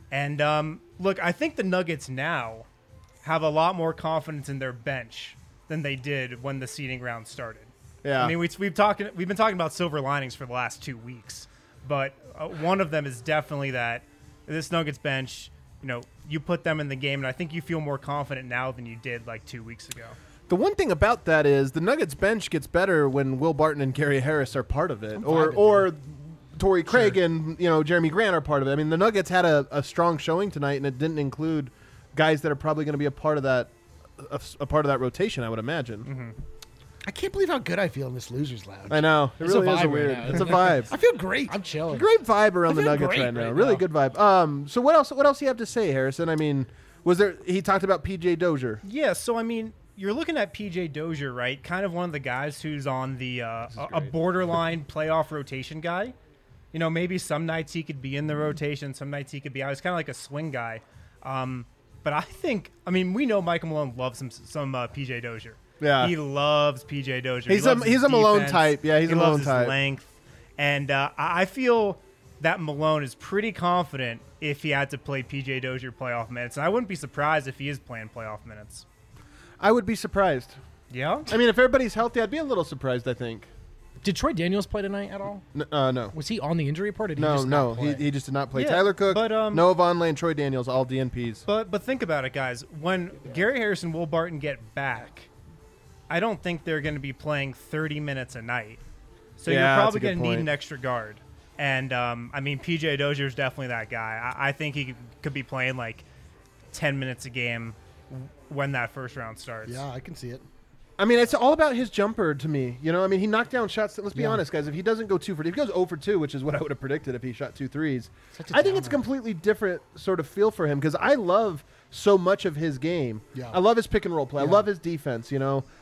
A: And look, I think the Nuggets now have a lot more confidence in their bench than they did when the seeding round started.
D: Yeah.
A: I mean, we've been talking about silver linings for the last 2 weeks, but one of them is definitely that this Nuggets bench, you put them in the game, and I think you feel more confident now than you did like 2 weeks ago.
D: The one thing about that is the Nuggets bench gets better when Will Barton and Gary Harris are part of it, or Torrey Craig and Jeremy Grant are part of it. I mean, the Nuggets had a strong showing tonight, and it didn't include guys that are probably going to be a part of that rotation, I would imagine.
A: Mm-hmm.
E: I can't believe how good I feel in this losers lounge.
D: I know it
F: It's a
D: really is
F: vibe
D: a
F: right
D: weird.
F: now.
D: It's a vibe.
E: I feel great.
F: I'm chilling.
D: Great vibe around the
E: I feel
D: Nuggets
E: great
D: right now.
E: right
D: Really
E: now.
D: good vibe. So what else? What else do you have to say, Harrison? I mean, was there? He talked about PJ Dozier.
A: Yeah, so I mean, you're looking at PJ Dozier, right? Kind of one of the guys who's on the a borderline playoff rotation guy. Maybe some nights he could be in the rotation, some nights he could be out. He's kind of like a swing guy. But I mean, we know Michael Malone loves some PJ Dozier.
D: Yeah.
A: He loves PJ Dozier.
D: He's
A: He loves
D: he's
A: his
D: a Malone
A: defense.
D: type. Yeah, he's
A: he
D: a
A: loves
D: Malone
A: his
D: type.
A: length. And I feel that Malone is pretty confident if he had to play PJ Dozier playoff minutes. And I wouldn't be surprised if he is playing playoff minutes.
D: I would be surprised.
A: Yeah?
D: I mean, if everybody's healthy, I'd be a little surprised. I think.
F: Did Troy Daniels play tonight at all?
D: No.
F: Was he on the injury report? Or did he
D: No,
F: just
D: no,
F: not play?
D: he just did not play.
A: Yeah,
D: Tyler Cook,
A: but,
D: Noah Vonleh, and Troy Daniels, all DNPs.
A: But think about it, guys. When Gary Harris and Will Barton get back, I don't think they're going to be playing 30 minutes a night. So
D: Yeah,
A: you're
D: that's
A: probably
D: a good
A: going to need
D: point.
A: an extra guard. And, I mean, PJ Dozier is definitely that guy. I think he could be playing like 10 minutes a game when that first round starts.
E: Yeah, I can see it.
D: I mean, it's all about his jumper to me. I mean, he knocked down shots. Let's be
E: Yeah.
D: honest, guys. If he doesn't go 2 for 2, if he goes 0 for 2, which is what I would have predicted if he shot 2 threes,
E: Such a
D: I think it's a
E: downer.
D: completely different sort of feel for him because I love so much of his game.
E: Yeah.
D: I love his pick and roll play. I
E: Yeah.
D: love his defense.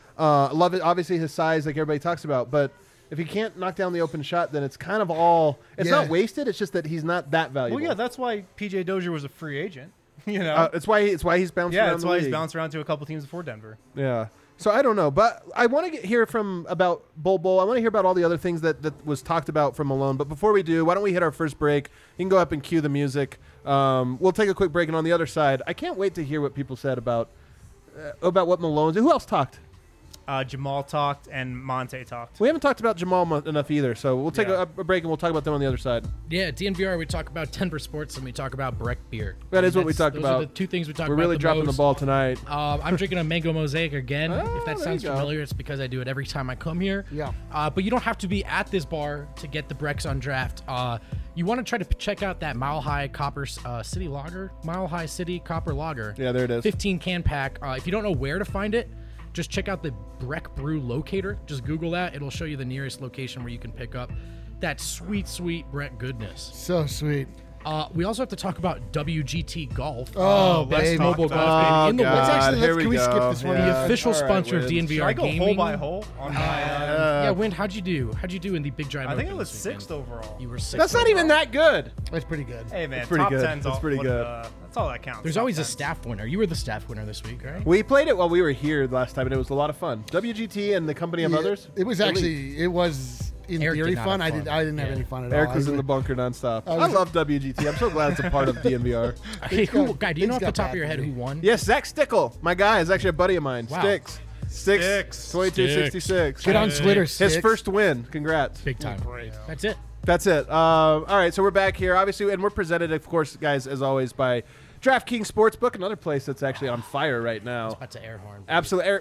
D: I love it. Obviously, his size, like everybody talks about. But if he can't knock down the open shot, then it's kind of all. It's
E: Yeah.
D: not wasted. It's just that he's not that valuable.
A: Well, yeah, that's why PJ Dozier was a free agent.
D: It's why he's bounced
A: Yeah,
D: around
A: that's
D: the
A: why
D: league.
A: he's bounced around to a couple teams before Denver.
D: Yeah. So I don't know, but I want to hear about Bol Bol. I want to hear about all the other things that was talked about from Malone. But before we do, why don't we hit our first break? You can go up and cue the music. We'll take a quick break, and on the other side, I can't wait to hear what people said about what Malone's. Who else talked?
A: Jamal talked and Monte talked.
D: We haven't talked about Jamal enough either, so we'll take
A: Yeah.
D: a break and we'll talk about them on the other side.
F: Yeah, DNVR, we talk about Denver sports and we talk about Breck beer.
D: That is what we talked
F: Those
D: about.
F: Are the two things we talk
D: We're
F: about.
D: really dropping the
F: most.
D: ball tonight.
F: I'm drinking a mango mosaic again.
D: Oh,
F: If that
D: there
F: sounds
D: you go.
F: familiar, it's because I do it every time I come here.
E: Yeah.
F: But you don't have to be at this bar to get the Brecks on draft. You want to try to check out that Mile High Copper City Lager, Mile High City Copper Lager.
D: Yeah, there it is.
F: 15 can pack. If you don't know where to find it, just check out the Breck Brew locator. Just Google that. It'll show you the nearest location where you can pick up that sweet, sweet Breck goodness.
E: So sweet.
F: We also have to talk about WGT Golf.
E: Oh,
A: let's
E: baby.
A: talk
F: mobile
A: about
F: golf
D: Oh,
F: game in the
D: God.
F: world.
E: Let's actually-
D: Here we
E: can we
D: go.
E: skip this one?
F: The
D: Yeah.
F: official
D: All right,
F: sponsor of
D: Wiz.
F: DNVR
A: Should I go
F: Gaming.
A: hole by hole on my?
F: Yeah, Wind, how'd you do? How'd you do in the Big Drive?
A: I think it
F: Open
A: was
F: this weekend?
A: sixth overall.
F: You were sixth.
D: That's not even that good.
E: That's pretty good.
A: Hey man,
D: That's pretty
A: top
D: good.
A: 10's
D: That's
A: all,
D: pretty good.
A: That's all that counts.
F: There's
A: top
F: always a
A: 10s.
F: staff winner. You were the staff winner this week, right?
D: We played it while we were here last time, and it was a lot of fun. WGT and the company of
E: Yeah,
D: others.
E: It was
D: Elite.
E: actually, it was in
F: Eric
E: theory
F: did not
E: fun.
F: have
E: I
F: fun.
E: didn't have
F: Yeah.
E: any fun at
D: Eric
E: all.
D: was
E: I
D: in the bunker nonstop.
E: I
D: I
E: was-
D: love WGT. I'm so glad it's a part of DNVR.
F: Hey,
E: got-
F: guy, do you know
E: things
F: off the
E: got
F: top
E: bad
F: of your
E: for
F: head
E: me.
F: who won?
D: Yes, Zach Stickle, my guy, is actually a buddy of mine.
F: Wow.
D: Sticks.
A: Sticks.
D: 22-66.
E: Get on Twitter,
D: His
E: Sticks.
D: first win. Congrats.
F: Big time. That's it.
D: That's it. All right, so we're back here, obviously, and we're presented, of course, guys, as always, by DraftKings Sportsbook, another place that's actually on fire right now.
F: That's an air horn.
D: Absolutely.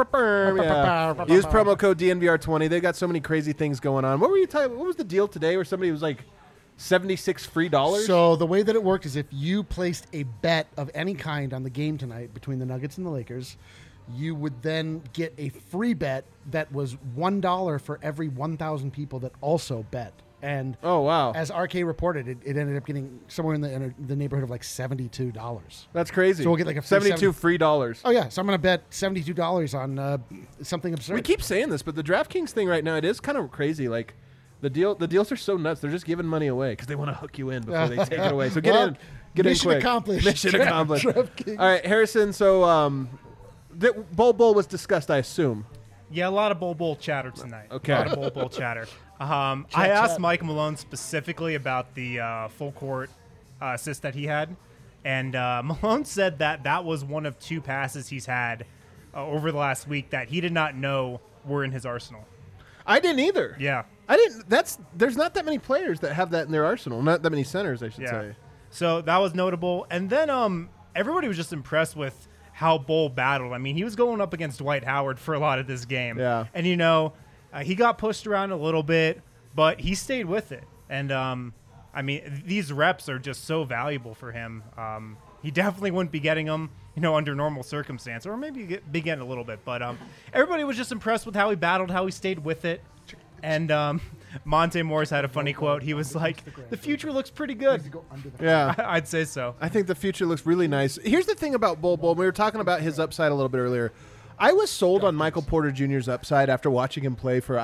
D: Yeah. Use promo code DNVR20. They got so many crazy things going on. What were you talking? What was the deal today where somebody was like $76 free?
E: So the way that it worked is if you placed a bet of any kind on the game tonight between the Nuggets and the Lakers, you would then get a free bet that was $1 for every 1,000 people that also bet. And
D: oh wow,
E: as RK reported, it ended up getting somewhere in the neighborhood of like $72.
D: That's crazy.
E: So we'll get like a
D: $72 free dollars.
E: Oh yeah, so I'm going to bet $72 on something absurd.
D: We keep saying this, but the DraftKings thing right now, it is kind of crazy. Like the deals are so nuts. They're just giving money away because they want to hook you in before they take it away. So get in quick.
E: Mission accomplished.
D: Mission accomplished. All right, Harrison. So the Bowl was discussed, I assume.
A: Yeah, a lot of Bowl chatter tonight.
D: Okay.
A: A lot of Bowl chatter. I asked Mike Malone specifically about the full court assist that he had, and Malone said that was one of 2 passes he's had over the last week that he did not know were in his arsenal.
D: I didn't either.
A: Yeah.
D: I didn't. There's not that many players that have that in their arsenal. Not that many centers, I should say.
A: So that was notable. And then everybody was just impressed with how Bull battled. I mean, he was going up against Dwight Howard for a lot of this game.
D: Yeah.
A: And, he got pushed around a little bit, but he stayed with it. And, I mean, these reps are just so valuable for him. He definitely wouldn't be getting them, under normal circumstance, or maybe be getting a little bit. But everybody was just impressed with how he battled, how he stayed with it. And Monte Morris had a funny quote. He was like, the future looks pretty good.
D: Yeah.
A: I'd say so.
D: I think the future looks really nice. Here's the thing about Bull. We were talking about his upside a little bit earlier. I was sold on Michael Porter Jr.'s upside after watching him play for,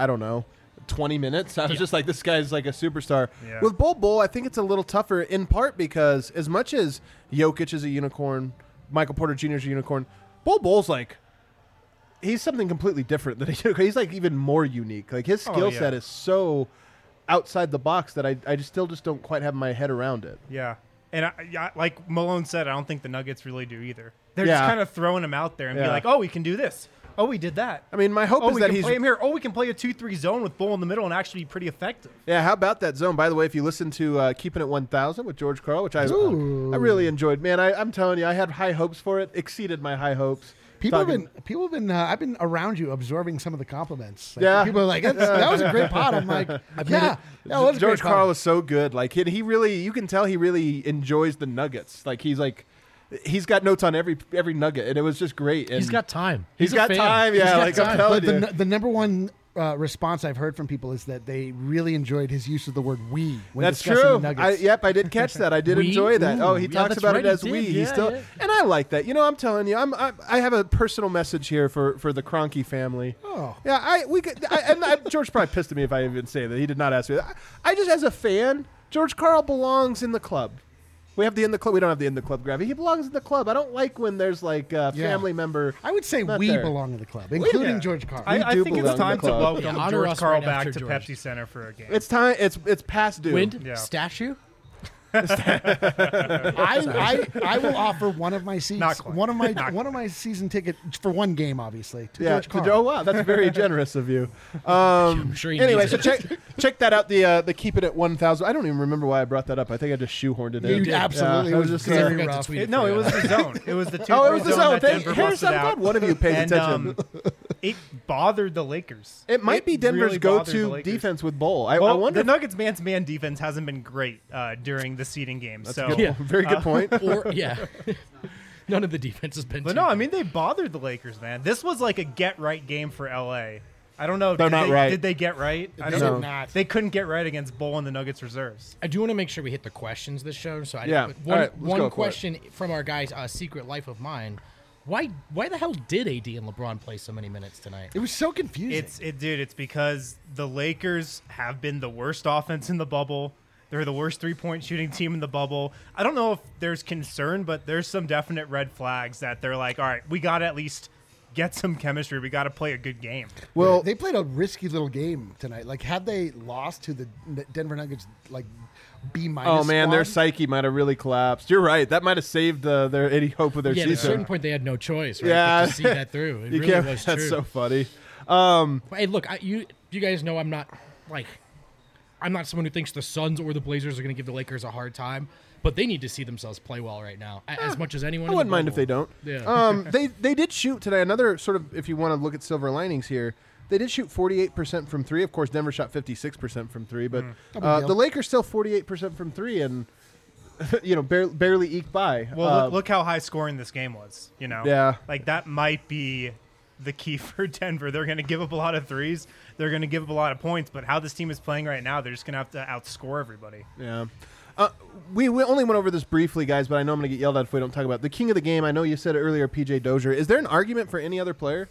D: 20 minutes. I was just like, this guy's like a superstar.
A: Yeah.
D: With Bull, I think it's a little tougher in part because as much as Jokic is a unicorn, Michael Porter Jr. is a unicorn, Bull's like, he's something completely different than he's like even more unique. Like his skill set is so outside the box that I still don't quite have my head around it.
A: Yeah. And like Malone said, I don't think the Nuggets really do either. They're just kind of throwing him out there and be like, oh, we can do this. Oh, we did that.
D: I mean, my hope is
A: we
D: that
A: can
D: he's
A: play him here. Oh, we can play a 2-3 zone with Bull in the middle and actually be pretty effective.
D: Yeah, how about that zone? By the way, if you listen to Keeping It 1000 with George Carl, which I really enjoyed. Man, I'm telling you, I had high hopes for it. Exceeded my high hopes.
E: People have been. I've been around you absorbing some of the compliments. Like,
D: yeah,
E: people are like, "That was a great pod." I'm like, "Yeah, that was
D: George Carl was so good. Like he really, you can tell he really enjoys the Nuggets. Like he's got notes on every nugget, and it was just great. And
F: he's got time.
D: He's got time. Yeah, like I'm telling you.
E: The number one response I've heard from people is that they really enjoyed his use of the word "we" when
D: That's
E: discussing
D: true.
E: the Nuggets.
D: I did catch that. I did enjoy that. Oh, he talks about it as "we." He's still, and I like that. I'm telling you, I have a personal message here for the Kroenke family.
E: Oh,
D: yeah. George probably pissed at me if I even say that. He did not ask me. I just, as a fan, George Carl belongs in the club. We have the in the club. We don't have the in the club gravity. He belongs in the club. I don't like when there's like a family member.
E: I would say we
D: there.
E: belong in the club, including George Carl.
A: I think it's time to welcome
F: honor
A: George
F: us
A: Carl
F: right
A: back
F: after
A: to
F: George.
A: Pepsi Center for a game.
D: It's time. It's past due.
F: Wind
A: Yeah.
F: statue.
E: I will offer one of my seats,
A: Not quite.
E: one of my season ticket for one game, obviously. To
D: Yeah.
E: George Carl.
D: Oh wow, that's very generous of you.
F: I'm sure he
D: Anyway,
F: needs
D: so
F: it.
D: check that out. The Keep It at 1000. I don't even remember why I brought that up. I think I just shoehorned it in.
E: You absolutely
D: Yeah, I
E: was
D: was just
E: very
F: forgot to
E: rough.
F: tweet
A: It was the zone. It was the 2-3
D: Oh, it was the zone.
A: that Denver
D: Harris,
A: busted
D: I'm
A: out.
D: glad one of you paid
A: And,
D: attention.
A: It bothered the Lakers.
D: It might be Denver's
A: really bothered the
D: go-to
A: Lakers.
D: defense with Bull. I
A: Well,
D: wonder.
A: the Nuggets' man-to-man defense hasn't been great during the seeding games.
D: That's
A: So,
D: a good, very good point.
F: Or none of the defense has been.
A: but
F: too
A: no, I
F: good.
A: mean they bothered the Lakers, man. This was like a get-right game for LA. I don't know.
D: They're not right.
A: Did they get right? I
E: They
A: don't
E: did
A: know.
E: not.
A: They couldn't get right against Bull and the Nuggets reserves.
F: I do want to make sure we hit the questions this show. So
D: Yeah.
F: one,
D: All right, let's go
F: one
D: for it.
F: question from our guys, Secret Life of Mine. Why the hell did AD and LeBron play so many minutes tonight?
E: It was so confusing.
A: It's because the Lakers have been the worst offense in the bubble. They're the worst three-point shooting team in the bubble. I don't know if there's concern, but there's some definite red flags that they're like, all right, we got to at least get some chemistry. We got to play a good game.
D: Well,
E: they played a risky little game tonight. Like, had they lost to the Denver Nuggets, like B-.
D: Oh man, their
E: squad.
D: psyche might have really collapsed. You're right. That might have saved their any hope of their
F: Yeah, at a
D: season.
F: certain point they had no choice, right?
D: Yeah.
F: But to see that through. It
D: You
F: really
D: can't-
F: was
D: that's
F: true.
D: so funny.
F: Hey, look, you guys know I'm not someone who thinks the Suns or the Blazers are going to give the Lakers a hard time, but they need to see themselves play well right now, as much as anyone.
D: I wouldn't mind if they don't.
F: Yeah.
D: They did shoot today. Another sort of, if you want to look at silver linings here, they did shoot 48% from three. Of course, Denver shot 56% from three, but the Lakers still 48% from three, and barely eked by.
A: Well, look how high scoring this game was.
D: Yeah.
A: Like that might be the key for Denver. They're going to give up a lot of threes. They're going to give up a lot of points. But how this team is playing right now, they're just going to have to outscore everybody.
D: Yeah. We only went over this briefly, guys, but I know I'm going to get yelled at if we don't talk about it. The king of the game. I know you said it earlier, PJ Dozier. Is there an argument for any other player?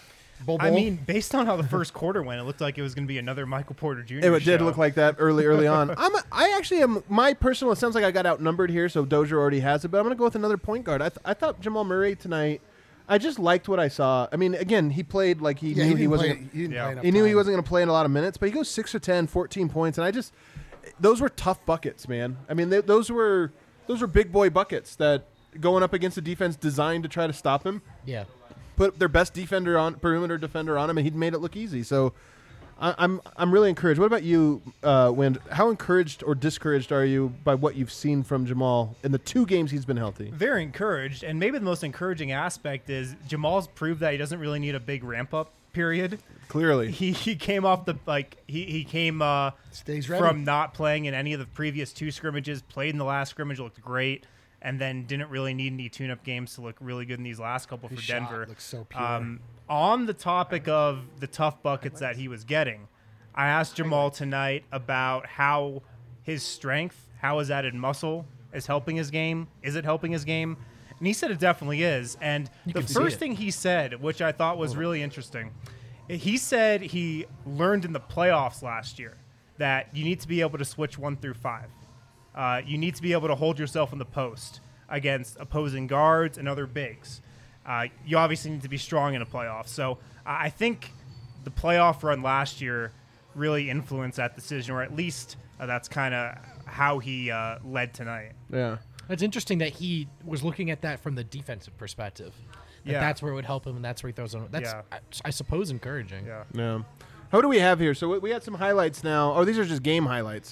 A: I mean, based on how the first quarter went, it looked like it was going to be another Michael Porter Jr.
D: It did
A: show.
D: look like that early on. I actually am my personal. It sounds like I got outnumbered here, so Dozier already has it. But I'm going to go with another point guard. I thought Jamal Murray tonight. I just liked what I saw. I mean, again, he played like he knew he wasn't. He knew he wasn't going to play in a lot of minutes, but he goes 6 for 10, 14 points, and those were tough buckets, man. I mean, those were big boy buckets that going up against a defense designed to try to stop him.
F: Yeah.
D: Put their best perimeter defender on him, and he'd made it look easy. So I'm really encouraged. What about you, Wind? How encouraged or discouraged are you by what you've seen from Jamal in the 2 games he's been healthy?
A: Very encouraged, and maybe the most encouraging aspect is Jamal's proved that he doesn't really need a big ramp up period.
D: Clearly,
A: he came off the he came
E: Stays ready.
A: from not playing in any of the previous 2 scrimmages. Played in the last scrimmage, looked great, and then didn't really need any tune-up games to look really good in these last couple for
E: shot
A: Denver.
E: looks so pure.
A: On the topic of the tough buckets that he was getting, I asked Jamal tonight about how his strength, how his added muscle is helping his game. Is it helping his game? And he said it definitely is. And the first thing he said, which I thought was really interesting, he said he learned in the playoffs last year that you need to be able to switch 1 through 5. You need to be able to hold yourself in the post against opposing guards and other bigs. You obviously need to be strong in a playoff. So I think the playoff run last year really influenced that decision, or at least that's kind of how he led tonight.
D: yeah.
F: It's interesting that he was looking at that from the defensive perspective. That's where it would help him, and that's where he throws on. That's, I suppose, encouraging.
A: Yeah.
D: Yeah. How do we have here? So we had some highlights now. Oh, these are just game highlights.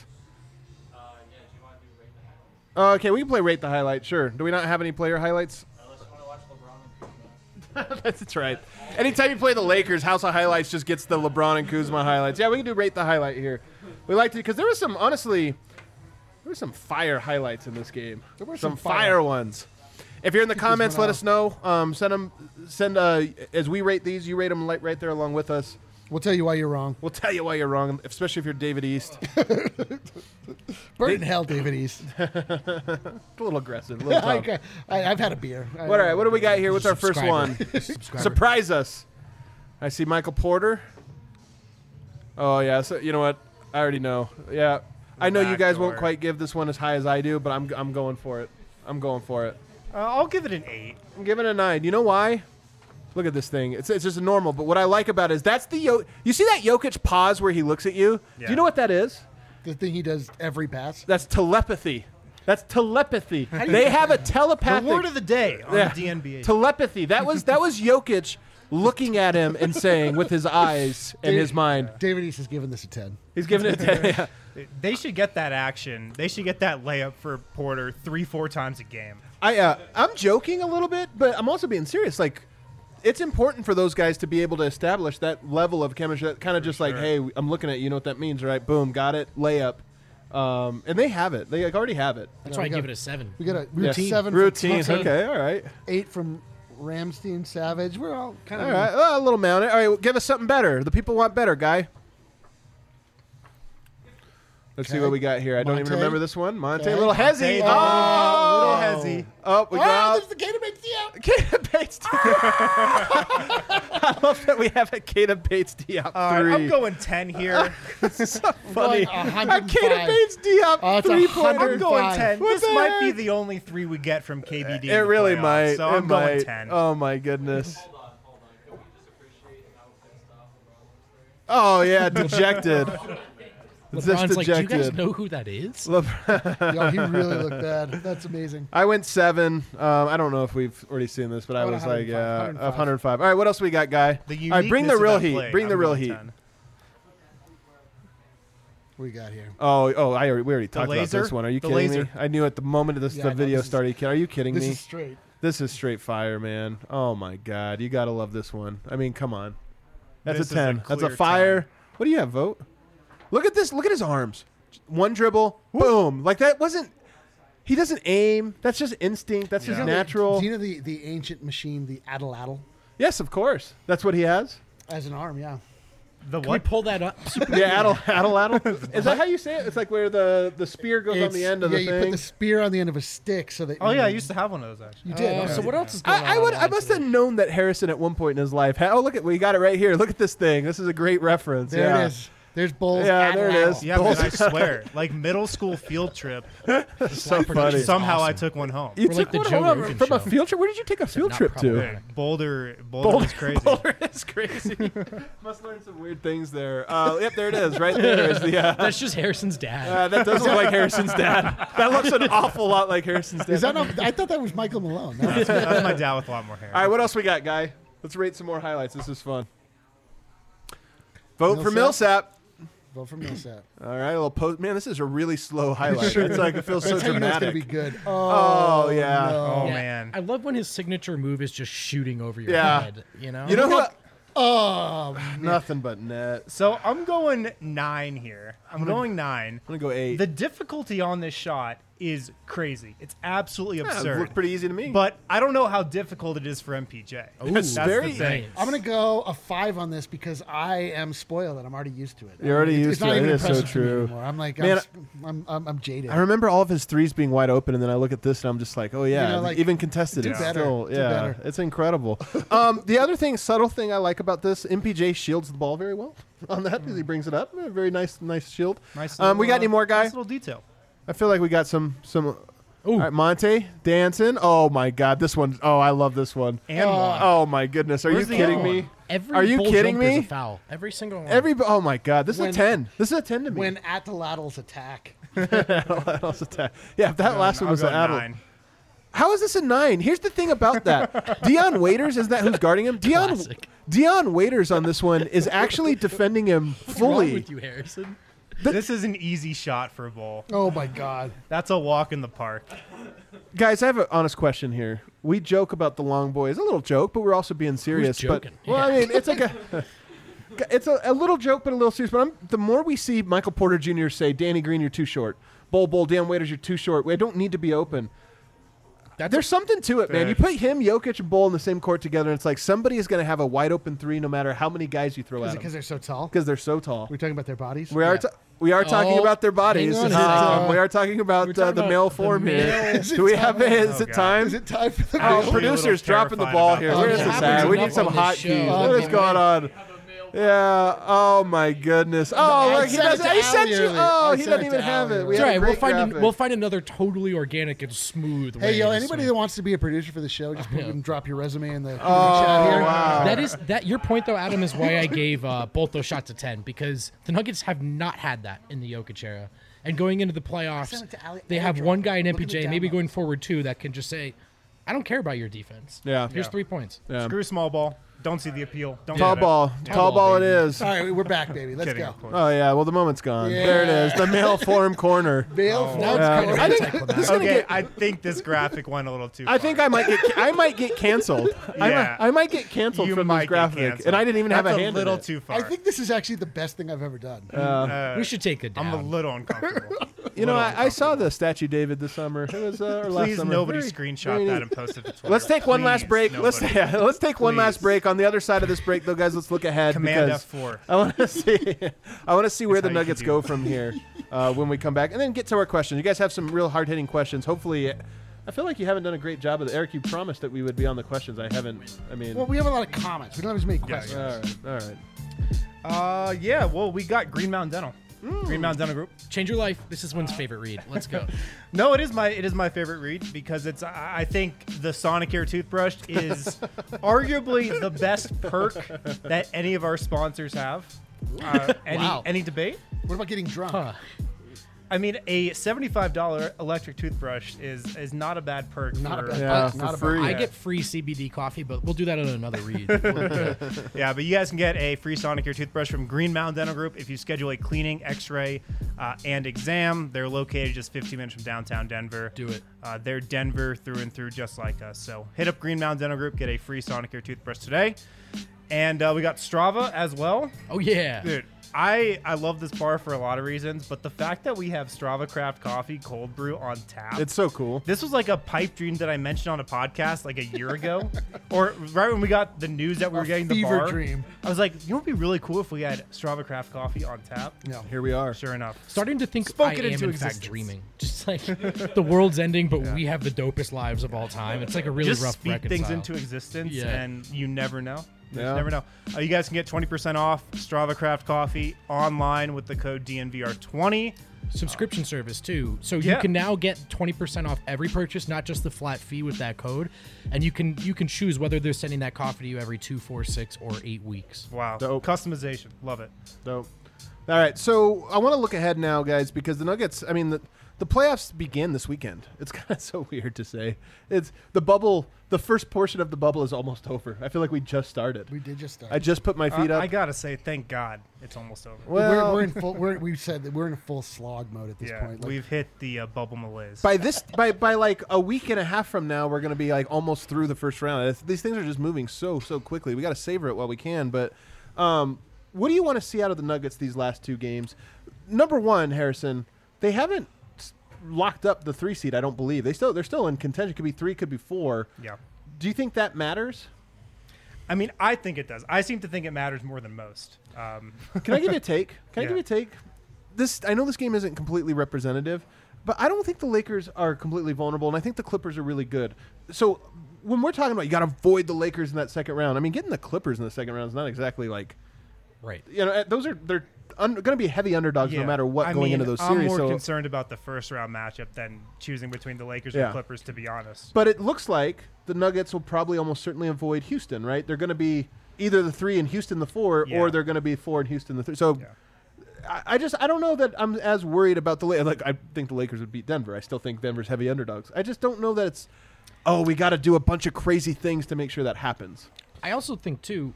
D: Okay, we can play Rate the Highlight, sure. Do we not have any player highlights? Unless you want to watch LeBron and Kuzma. That's right. Anytime you play the Lakers, House of Highlights just gets the LeBron and Kuzma highlights. Yeah, we can do Rate the Highlight here. We like to, because there was some, honestly, there were some fire highlights in this game.
E: There were
D: some
E: some
D: fire ones. If you're in the comments, let us know. Send as we rate these, you rate them right there along with us.
E: We'll tell you why you're wrong.
D: We'll tell you why you're wrong, especially if you're David East.
E: Burn in hell, David East.
D: A little aggressive. A little tough.
E: I've had a beer.
D: All right, what do we got here? What's our first one?
F: Subscriber.
D: Surprise us. I see Michael Porter. Oh, yeah. So, you know what? I already know. Yeah. I know you guys won't
A: Backdoor.
D: quite give this one as high as I do, but I'm going for it. I'm going for it.
A: I'll give it an 8.
D: I'm giving it a 9. You know why? Look at this thing. It's just normal. But what I like about it is that's the you see that Jokic pause where he looks at you?
A: Yeah.
D: Do you know what that is?
E: The thing he does every pass.
D: That's telepathy. That's telepathy. They have a
A: The
D: telepathic
A: word of the day on
D: Yeah.
A: the DNBA.
D: telepathy. That was Jokic looking at him and saying with his eyes and his mind.
E: David East has given this a 10.
D: He's giving it a 10. Yeah.
A: They should get that action. They should get that layup for Porter 3-4 times a game.
D: I'm joking a little bit, but I'm also being serious. Like, it's important for those guys to be able to establish that level of chemistry. That kind of just like,
A: sure.
D: hey, I'm looking at you. You know what that means, right? Boom, got it. Layup. And they have it. They already have it.
F: That's why I give it a 7.
E: We got a
D: Yeah.
E: routine. 7 from
D: Routine.
E: Thompson,
D: Okay. All right.
E: 8 from Ramsey and Savage. We're all kind of
D: All right. Well, a little mounted. All right. Well, give us something better. The people want better, guy. Let's see
E: Okay.
D: what we got here. I don't even
E: Monte.
D: remember this one. Monte,
E: Okay.
D: a little hezzy.
A: Monte,
D: Oh,
A: little hezzy.
D: Oh, we
E: Oh,
D: got
E: there's the Gator Bates Diop.
D: Kata Bates Diop. I love that we have a Kata Bates Diop 3.
A: All right, I'm going 10 here.
D: so funny.
E: Going
D: A
E: 105.
D: Kata Bates Diop
E: Oh, it's
D: 3-pointer.
A: I'm going
E: 105.
A: 10.
D: What
A: This
D: the
A: might be
D: heck?
A: the only 3 we get from KBD. in
D: It
A: the
D: really
A: playoffs,
D: might.
A: So
D: It
A: I'm going
D: might.
A: 10.
D: Oh my goodness. Oh yeah, dejected.
F: LeBron's like, do you guys
D: dejected.
F: know who that is?
E: Yo, he really looked bad. That's amazing.
D: I went 7. I don't know if we've already seen this, but I
E: went
D: was like,
E: 105,
D: 105. All right, what else we got, Guy?
A: The
D: All right, bring the
A: uniqueness
D: real
A: of that
D: heat.
A: play,
D: Bring the
A: I'm
D: real
A: going
D: heat.
A: 10.
E: What we got here?
D: Oh, we already talked about
A: laser?
D: this one. Are you
A: The
D: kidding me?
A: laser.
D: I knew at the moment
E: Yeah,
D: the
E: I know,
D: video
E: this is-
D: started. Are you kidding
E: This
D: me?
E: is straight.
D: This is straight fire, man. Oh my God, you gotta love this one. I mean, come on. That's
A: This
D: a
A: is a
D: 10. That's a
A: clear
D: fire.
A: 10.
D: What do you have, Vote? Look at this. Look at his arms. One dribble, boom. Like that wasn't. He doesn't aim. That's just instinct. That's just
A: Yeah.
D: natural.
E: Do you know the ancient machine, the Addle
D: Yes, of course. That's what he has.
E: as an arm? Yeah.
A: The
F: Can we
A: what?
F: pull that up?
D: Yeah, addle. Is that how you say it? It's like where the spear goes on the end of the
E: you
D: thing.
E: put the spear on the end of a stick so that.
A: Oh yeah, I used to have one of those actually.
E: You did. okay.
F: So what else is going on?
D: I
F: online
D: must
F: today?
D: have known that Harrison at one point in his life had. Oh, look at we got it right here. Look at this thing. This is a great reference.
E: There
D: yeah.
E: it is. There's Bulls.
D: Yeah, there it
E: Addle.
D: is.
A: Yeah, but I swear, like middle school field trip,
D: So funny.
A: somehow I
F: awesome.
A: took one home.
D: You
F: We're like
D: took
F: the
D: one
F: Joe
D: home
F: Rogan
D: from a
F: show.
D: field trip. Where did you take a field
F: not
D: trip to?
F: problematic.
A: Boulder was crazy.
D: Boulder is crazy. Must learn some weird things there. Yep, there it is. Right there is the.
F: That's just Harrison's dad.
D: That does look like Harrison's dad. That looks an awful lot like Harrison's dad.
E: Is that not, I thought that was Michael Malone. No,
A: That's my dad with a lot more hair.
D: All right, what else we got, Guy? Let's rate some more highlights. This is fun. Vote for
E: Millsap.
D: Millsap.
E: Vote for Millsap.
D: All right, a little post. Man, this is a really slow highlight. It's like it feels so
E: That's how you know it's
D: dramatic.
E: gonna be good.
D: Oh, yeah.
E: no.
A: Oh
F: Yeah,
A: man.
F: I love when his signature move is just shooting over your
D: Yeah.
F: head. You know.
D: You know who?
E: Oh,
D: Nothing but net.
A: So I'm going 9 here. I'm going 9.
D: I'm gonna go 8.
A: The difficulty on this shot is crazy. It's absolutely
D: Yeah, it
A: absurd.
D: looked pretty easy to me.
A: But I don't know how difficult it is for MPJ.
F: Ooh,
A: That's
D: very-
A: the thing.
E: I'm gonna go a 5 on this because I am spoiled and I'm already used to it.
D: You're already used
E: it's
D: to
E: not
D: it.
E: even
D: It is so
E: impressive to me
D: true.
E: anymore. I'm like,
D: Man,
E: I'm jaded.
D: I remember all of his threes being wide open, and then I look at this and I'm just like, oh yeah,
E: You know, like,
D: even contested,
E: do
D: it's
E: better.
D: still,
E: Do
D: yeah,
E: better.
D: it's incredible. The other thing, subtle thing I like about this, MPJ shields the ball very well on that. He brings it up, very nice shield.
A: Nice.
D: We got any more, Guy?
A: Nice little detail.
D: I feel like we got some.
F: Ooh.
D: All right, Monte dancing. Oh my God, this one. Oh, I love this one.
A: And one.
D: Oh my goodness, are
A: Where's
D: you
A: the
D: kidding
A: other
D: me?
A: one?
F: Every
D: Are you
F: bull
D: kidding
F: jumper is
D: me?
F: a foul. Every single one.
D: Oh my God, this is a
E: When-
D: 10. This is a 10 to me.
E: when at the laterals attack.
D: Yeah, if that last one
A: I'll
D: was
A: go
D: an addle.
A: 9.
D: How is this a 9? Here's the thing about that. Dion Waiters, is that who's guarding him?
F: Classic.
D: Dion Waiters on this one is actually defending him
F: What's wrong
D: fully.
F: with you, Harrison?
A: This is an easy shot for a bowl.
E: Oh my God.
A: That's a walk in the park.
D: Guys, I have an honest question here. We joke about the long boys, a little joke, but we're also being serious.
F: joking?
D: But well, I mean, it's like it's a little joke, but a little serious. But the more we see Michael Porter Jr. say, "Danny Green, you're too short," Bull, Dion Waiters, you're too short. We don't need to be open. There's something to it, man.
A: Fair.
D: You put him, Jokic, and Bull in the same court together, and it's like somebody is going to have a wide open three, no matter how many guys you throw
E: Is
D: at
E: it
D: them,
E: because they're so tall?
D: because they're so tall.
E: We're talking about their bodies.
D: We are. We are talking
F: Oh,
D: about their bodies.
F: hang on.
D: We are talking about
F: We're talking
D: the
F: about
D: male
F: the
D: form
F: male-
D: here.
E: Is it
D: Do we
E: time?
D: have it? Is
A: Oh,
D: it
A: God.
D: time?
E: Is it time for the
D: Oh,
A: Actually, a
D: producers
A: little
D: dropping the
A: terrified
D: ball
A: about
D: here.
A: that.
D: Where is
F: It
D: this
F: happens
D: at? We need
F: enough
D: some
F: on this
D: hot
F: show.
D: keys.
F: Oh,
D: What is
F: man.
D: going on? Yeah. Oh my goodness. Oh,
E: I
D: look, he
E: sent it
D: doesn't.
E: to
D: He sent
E: Allie
D: you.
E: earlier.
D: Oh,
E: I
D: he
E: sent
D: doesn't
E: it
D: even
E: to
D: have
E: Allie
D: it. We
F: It's
D: had
F: all
D: a
F: right.
D: great graphic.
F: We'll find another totally organic and smooth way.
E: Hey, yo,
F: to
E: anybody
F: swing.
E: that wants to be a producer for the show, just put and drop your resume in the chat
D: Oh,
E: here.
D: wow.
F: That is that. Your point, though, Adam, is why I gave both those shots a 10 because the Nuggets have not had that in the Jokic era, and going into the playoffs,
E: sent it to Ali-
F: they have
E: airdrop.
F: one guy in
E: Look at the
F: MPJ, maybe
E: download.
F: going forward too, that can just say, "I don't care about your defense.
D: Yeah.
F: Here's
A: Yeah.
F: 3 points."
D: Yeah.
A: Screw small ball. Don't see the appeal. Don't
D: Tall
A: get it.
D: ball. Tall ball it
F: baby.
D: is.
E: All right, we're back, baby. Let's
A: Kidding,
E: go.
A: of course.
D: Oh yeah. Well, the moment's gone.
E: Yeah.
D: There it is. The male form corner.
E: Bill,
F: Now it's
D: Yeah.
F: kind of
D: I think
F: anticlimactic.
D: this is gonna
A: Okay,
D: get.
A: I think this graphic went a little too far.
D: I think I might get canceled.
A: Yeah.
D: I might get canceled
A: You
D: from
A: might
D: this
A: get
D: graphic,
A: canceled.
D: and I didn't even have
A: That's
D: a hand
A: little
D: in it.
A: too far.
E: I think this is actually the best thing I've ever done.
F: We should take it down.
A: I'm a little uncomfortable.
D: You know,
A: Little
D: I saw the statue David this summer. It was or last
A: Please,
D: summer.
A: nobody
D: Very-
A: screenshot
D: very
A: that
D: neat.
A: and post it to Twitter.
D: Let's take one last
A: Please,
D: break. Let's
A: nobody.
D: take one last
A: Please.
D: break. On the other side of this break, though, guys, let's look ahead.
A: Command
D: because
A: F4.
D: I want to see. I want to see where the
A: how you
D: Nuggets
A: do
D: go
A: it.
D: from here when we come back, and then get to our questions. You guys have some real hard hitting questions. Hopefully, I feel like you haven't done a great job of it. Eric, you promised that we would be on the questions. I haven't. I mean,
E: Well, we have a lot of comments. We don't have as many questions.
D: all right.
A: Yeah, well, we got Green Mountain Dental. Green Mountain Dental Group.
F: Change your life. This is one's favorite read. Let's go.
A: No, it is my favorite read because it's I think the Sonicare toothbrush is arguably the best perk that any of our sponsors have.
F: Wow.
A: Any debate?
E: What about getting drunk?
A: I mean, a $75 electric toothbrush is not a bad perk.
E: Not a
A: for,
E: bad
D: Yeah,
E: Not
D: for free.
F: I get free CBD coffee, but we'll do that on another read.
A: Yeah, but you guys can get a free Sonicare toothbrush from Green Mountain Dental Group if you schedule a cleaning, X-ray, and exam. They're located just 15 minutes from downtown Denver.
F: Do it.
A: They're Denver through and through, just like us. So hit up Green Mountain Dental Group, get a free Sonicare toothbrush today. And we got Strava as well.
F: Oh yeah,
A: Dude, I love this bar for a lot of reasons, but the fact that we have Strava Craft Coffee cold brew on tap.
D: It's so cool.
A: This was like a pipe dream that I mentioned on a podcast like a year ago, or right when we got the news that we were getting the
E: fever
A: bar.
E: dream.
A: I was like, you know, what'd be really cool if we had Strava Craft Coffee on tap.
E: No.
D: Here we are.
A: Sure enough,
F: starting to think
A: Spoke
F: I
A: it
F: am
A: into
F: in
A: existence.
F: fact dreaming. Just like the world's ending, but we have the dopest lives of all time. It's like a really
A: just
F: rough
A: speak
F: reconcile.
A: things into existence,
F: Yeah.
A: and you never know. You
D: Yeah.
A: just never know. You guys can get 20% off Strava Craft Coffee online with the code DNVR20.
F: Subscription service too, so
A: Yeah.
F: you can now get 20% off every purchase, not just the flat fee with that code, and you can choose whether they're sending that coffee to you every 2, 4, 6, or 8 weeks.
A: Wow,
D: Dope.
A: customization, love it.
D: Dope. All right, so I want to look ahead now, guys, because the Nuggets. I mean, the playoffs begin this weekend. It's kind of so weird to say. It's the bubble. The first portion of the bubble is almost over. I feel like we just started.
E: We did just start.
D: I just put my feet up.
A: I gotta say, thank God it's almost over.
D: Well,
E: we're in full. We've said that we're in a full slog mode at this
A: Yeah,
E: point. Like,
A: we've hit the bubble malaise.
D: by like a week and a half from now, we're going to be like almost through the first round. These things are just moving so quickly. We got to savor it while we can. But what do you want to see out of the Nuggets these last two games? Number one, Harrison, they haven't locked up the 3 seed. I don't believe they're still in contention. Could be 3, could be 4.
A: Yeah.
D: Do you think that matters?
A: I mean, I think it does. I seem to think it matters more than most.
D: Can I give you a take? Can I
A: Yeah.
D: give you a take? I know this game isn't completely representative, but I don't think the Lakers are completely vulnerable, and I think the Clippers are really good. So when we're talking about you got to avoid the Lakers in that second round, I mean, getting the Clippers in the second round is not exactly like,
F: Right.
D: they're going to be heavy underdogs no matter what
A: I
D: going
A: mean,
D: into those
A: I'm
D: series.
A: more
D: So,
A: concerned about the first round matchup than choosing between the Lakers
D: Yeah.
A: and Clippers, to be honest.
D: but it looks like the Nuggets will probably almost certainly avoid Houston, right? They're going to be either the 3 and Houston the 4,
A: Yeah.
D: or they're going to be 4 and Houston the 3. So.
A: Yeah.
D: I don't know that I'm as worried about the Lakers. Like, I think the Lakers would beat Denver. I still think Denver's heavy underdogs. I just don't know that it's, we got to do a bunch of crazy things to make sure that happens.
F: I also think too,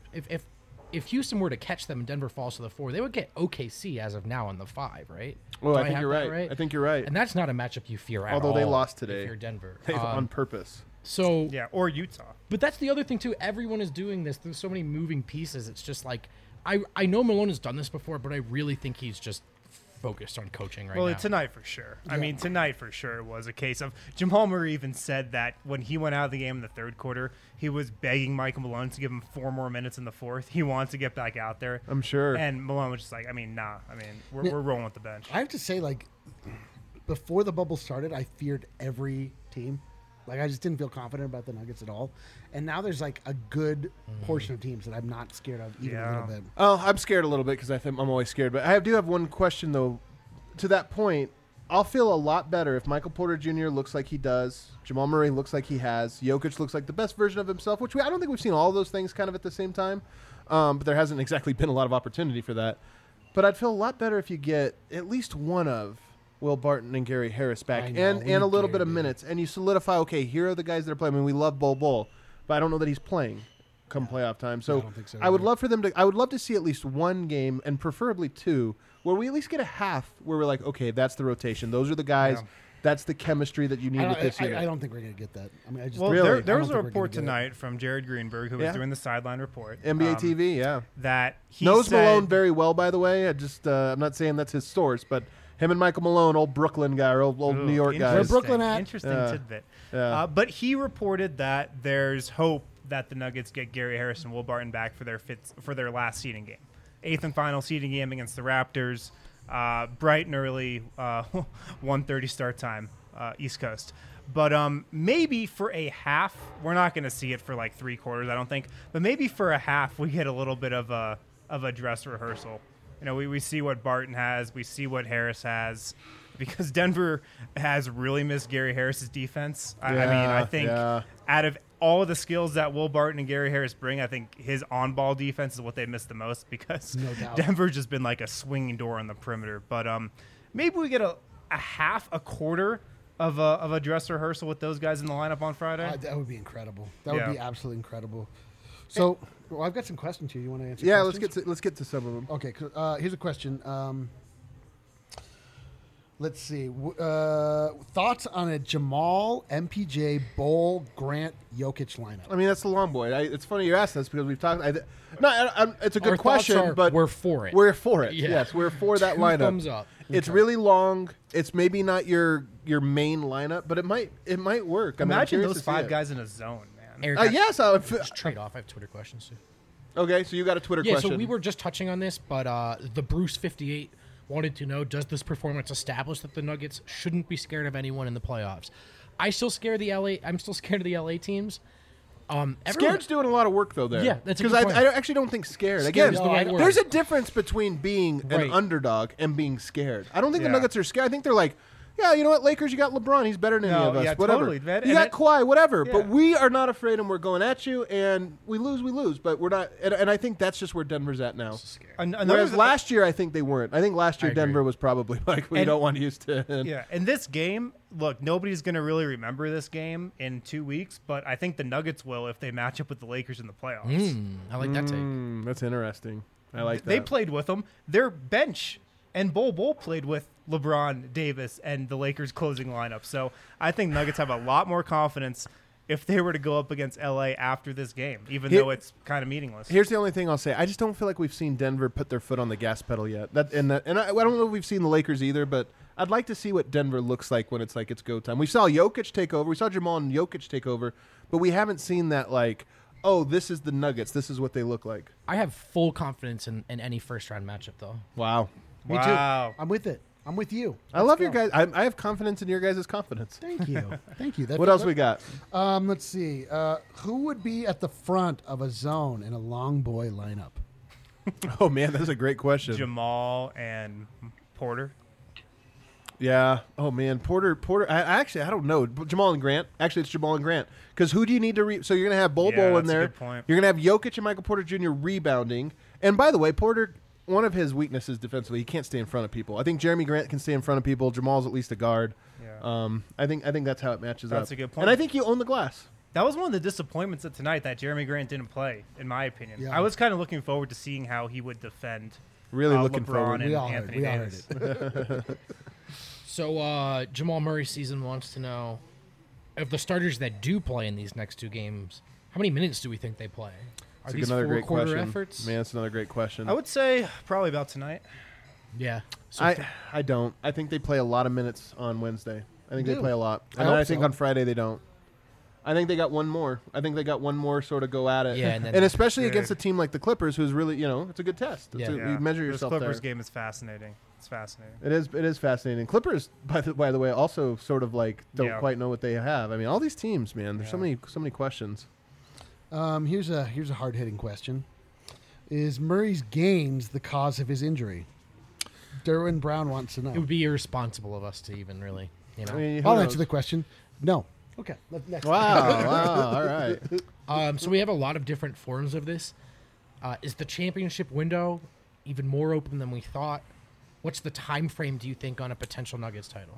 F: if Houston were to catch them and Denver falls to the 4, they would get OKC as of now on the 5, right?
D: Well,
F: Do
D: I think
F: have
D: you're
F: that
D: right. I think you're right.
F: And that's not a matchup you fear at all.
D: Although they lost today.
F: If you're Denver.
D: On purpose.
F: So
A: Yeah, or Utah.
F: But that's the other thing too. Everyone is doing this. There's so many moving pieces. It's just like I know Malone has done this before, but I really think he's just focused on coaching right
A: Well,
F: now.
A: tonight for sure. I mean, tonight for sure was a case of Jamal Murray even said that when he went out of the game in the third quarter, he was begging Michael Malone to give him 4 more minutes in the fourth. He wanted to get back out there.
D: I'm sure.
A: And Malone was just like, I mean, nah. I mean, we're rolling with the bench.
E: I have to say, like, before the bubble started, I feared every team. Like, I just didn't feel confident about the Nuggets at all. And now there's, like, a good portion of teams that I'm not scared of even a little bit.
D: Oh, I'm scared a little bit because I think I'm always scared. But I do have one question, though. To that point, I'll feel a lot better if Michael Porter Jr. looks like he does, Jamal Murray looks like he has, Jokic looks like the best version of himself, which I don't think we've seen all those things kind of at the same time. But there hasn't exactly been a lot of opportunity for that. But I'd feel a lot better if you get at least one of Will Barton and Gary Harris back
E: I know,
D: and
E: we
D: a
E: need
D: little
E: Gary,
D: bit of
E: dude.
D: minutes. And you solidify, okay, here are the guys that are playing. I mean, we love Bol, but I don't know that he's playing come playoff time. So
E: I don't think so
D: I would
E: either.
D: love for them to. I would love to see at least one game, and preferably 2, where we at least get a half where we're like, okay, that's the rotation. Those are the guys.
A: Yeah.
D: That's the chemistry that you need with this unit.
E: I don't think we're going to get that. I mean, I just
A: Well,
D: Really?
A: there
E: I
A: was a
E: don't think we're
A: report
E: gonna get it.
A: tonight from Jared Greenberg, who was
D: Yeah.
A: doing the sideline report.
D: NBA TV, yeah.
A: That he
D: Knows
A: said,
D: Malone very well, by the way. I'm not saying that's his source, but him and Michael Malone, old Brooklyn guy, or old New York guys.
E: Where Brooklyn at?
A: Interesting
D: Yeah.
A: tidbit.
D: Yeah.
A: But he reported that there's hope that the Nuggets get Gary Harris and Will Barton back for their last seeding game, 8th and final seeding game against the Raptors. Bright and early, 1:30 start time, East Coast. But maybe for a half, we're not going to see it for like 3 quarters, I don't think. But maybe for a half, we get a little bit of a dress rehearsal. You know, we see what Barton has, we see what Harris has, because Denver has really missed Gary Harris's defense. I mean, I think
D: Yeah.
A: out of all of the skills that Will Barton and Gary Harris bring, I think his on-ball defense is what they miss the most because
E: No doubt.
A: Denver's just been like a swinging door on the perimeter. But maybe we get a quarter of a dress rehearsal with those guys in the lineup on Friday.
E: That would be incredible. That
A: Yeah.
E: would be absolutely incredible. So, well, I've got some questions here. You want to answer?
D: Yeah,
E: questions?
D: let's get to some of them.
E: Okay, here's a question. Let's see. Thoughts on a Jamal, MPJ, Bol, Grant, Jokic lineup?
D: I mean, that's the long boy. It's funny you asked this because we've talked. It's a good
F: Our thoughts
D: question,
F: are
D: but
F: we're for it.
D: We're for it.
F: Yeah.
D: Yes, we're for that
F: Two
D: lineup.
F: thumbs up.
D: It's really long. It's maybe not your main lineup, but it might work. I'm
A: Imagine
D: curious
A: those
D: to see
A: 5
D: it.
A: guys in a zone, man.
F: Eric,
D: Yes,
F: just trade off. I have Twitter questions too.
D: okay. So you got a Twitter
F: Yeah,
D: question.
F: so we were just touching on this, but the Bruce58 wanted to know, does this performance establish that the Nuggets shouldn't be scared of anyone in the playoffs? I'm still scared of the LA teams.
D: Scared's doing a lot of work though there.
F: Yeah, that's a
D: because
F: good point.
D: I actually don't think scared.
F: Scared
D: Again,
F: is the right word.
D: there's a difference between being an
F: Right.
D: underdog and being scared. I don't think the
A: Yeah.
D: Nuggets are scared. I think they're like, yeah, you know what, Lakers, you got LeBron. He's better than any
A: No,
D: of us.
A: yeah,
D: whatever.
A: totally, man.
D: You
A: And
D: got Kawhi, whatever.
A: Yeah.
D: But we are not afraid, and we're going at you. And we lose. But we're not. And I think that's just where Denver's at now. Whereas last year, I think they weren't. I think last year
F: I agree.
D: Denver was probably like, we
A: And-
D: don't want to use 10.
A: Yeah, and this game, look, nobody's going to really remember this game in 2 weeks, but I think the Nuggets will if they match up with the Lakers in the playoffs.
F: I like that take.
D: That's interesting. I like that.
A: They played with them. Their bench and Bol played with LeBron, Davis, and the Lakers closing lineup. So I think Nuggets have a lot more confidence if they were to go up against LA after this game, even though it's kind of meaningless.
D: Here's the only thing I'll say. I just don't feel like we've seen Denver put their foot on the gas pedal yet. And I don't know if we've seen the Lakers either, but I'd like to see what Denver looks like when it's like it's go time. We saw Jokic take over. We saw Jamal and Jokic take over, but we haven't seen that like, oh, this is the Nuggets. This is what they look like.
F: I have full confidence in any first-round matchup, though.
D: Wow.
E: Me
A: Wow.
E: too. I'm with it. I'm with you.
D: I love your guys. I have confidence in your guys' confidence.
E: Thank you. Thank you.
D: What else we got?
E: Let's see. Who would be at the front of a zone in a long boy lineup?
D: Oh, man, that's a great question.
A: Jamal and Porter.
D: Yeah. Oh, man. Porter. I don't know. Jamal and Grant. Actually, it's Jamal and Grant. Because who do you need to so you're going to have Bol
A: Yeah,
D: in
A: that's a
D: there.
A: good point.
D: You're going to have Jokic and Michael Porter Jr. rebounding. And by the way, Porter, one of his weaknesses defensively, he can't stay in front of people. I think Jeremy Grant can stay in front of people. Jamal's at least a guard.
A: Yeah.
D: I think that's how it matches up.
A: That's a good point.
D: And I think you own the glass.
A: That was one of the disappointments of tonight that Jeremy Grant didn't play, in my opinion.
E: Yeah.
A: I was kind of looking forward to seeing how he would defend
D: Really looking
A: LeBron
D: forward.
A: and
E: We all heard
A: Anthony
E: it. We all
A: Davis.
E: heard it.
F: So Jamal Murray season wants to know, of the starters that do play in these next two games, how many minutes do we think they play? Are
D: That's
F: these
D: another great
F: four-quarter
D: question.
F: efforts?
D: Man, that's another great question.
A: I would say probably about tonight.
F: Yeah. So
D: I don't. I think they play a lot of minutes on Wednesday. I think they
E: Do.
D: play a lot.
E: I
D: And then
E: hope
D: I think
E: so.
D: on Friday they don't. I think they got one more. Sort of go at it.
F: Yeah, and then-
D: and especially
A: Yeah.
D: against a team like the Clippers, who's really, it's a good test.
F: Yeah.
D: You measure
A: This
D: yourself
A: Clippers
D: there.
A: game is fascinating. It's fascinating.
D: It is fascinating. Clippers, by the way, also sort of like don't
A: Yeah.
D: quite know what they have. I mean, all these teams, man. There's so many questions.
E: Here's a hard hitting question: is Murray's gains the cause of his injury? Derwin Brown wants to know.
F: it would be irresponsible of us to even really,
D: I mean, who
E: I'll
D: knows?
E: answer the question. No. Okay. Next.
D: Wow. All right.
F: So we have a lot of different forms of this. Is the championship window even more open than we thought? What's the time frame, do you think, on a potential Nuggets title?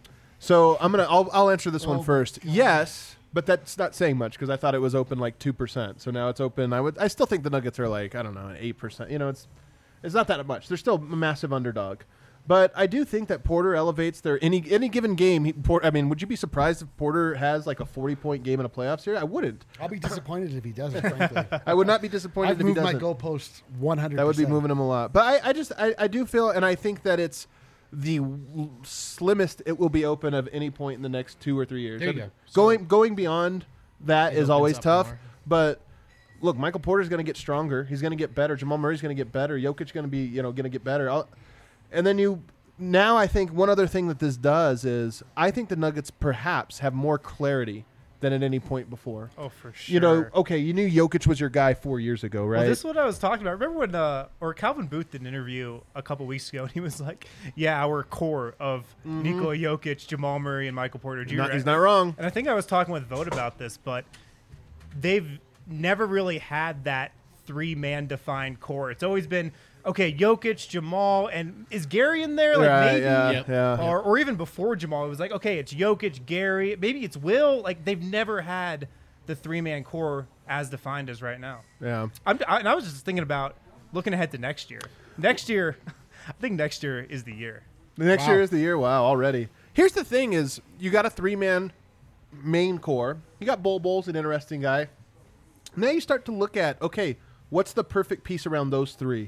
D: So I'll answer this one first. Yes, but that's not saying much because I thought it was open like 2%. So now it's open. I still think the Nuggets are like, I don't know, 8%. It's not that much. They're still a massive underdog. But I do think that Porter elevates their any given game. Would you be surprised if Porter has like a 40-point game in a playoff series? I wouldn't.
E: I'll be disappointed if he doesn't. Frankly,
D: I would not be disappointed
E: I've
D: if he
E: moved my
D: doesn't.
E: goalposts 100%.
D: That would be moving him a lot. But I do feel, and I think that it's the slimmest it will be open of any point in the next 2 or 3 years.
F: There you go.
D: Going beyond that
F: It
D: is
F: opens
D: always
F: up
D: tough.
F: more.
D: But look, Michael Porter's going to get stronger. He's going to get better. Jamal Murray's going to get better. Jokic's going to be going to get better. And then now I think one other thing that this does is I think the Nuggets perhaps have more clarity than at any point before.
A: Oh, for sure.
D: Okay, you knew Jokic was your guy 4 years ago, right?
A: Well, this is what I was talking about. Remember when Calvin Booth did an interview a couple weeks ago, and he was like, yeah, our core of Nikola Jokic, Jamal Murray, and Michael Porter Jr.
D: He's not wrong.
A: And I think I was talking with Vogt about this, but they've never really had that 3-man defined core. It's always been, okay, Jokic, Jamal, and is Gary in there? Like
D: Right,
A: maybe,
F: Yep.
D: yeah.
A: or even before Jamal, it was like, okay, it's Jokic, Gary, maybe it's Will. Like they've never had the 3-man core as defined as right now.
D: Yeah.
A: And I was just thinking about looking ahead to next year. Next year, I think next year is the year.
D: The next year is the year. Wow, already. Here's the thing: is you got a 3-man main core. You got Bol's an interesting guy. Now you start to look at, okay, what's the perfect piece around those three?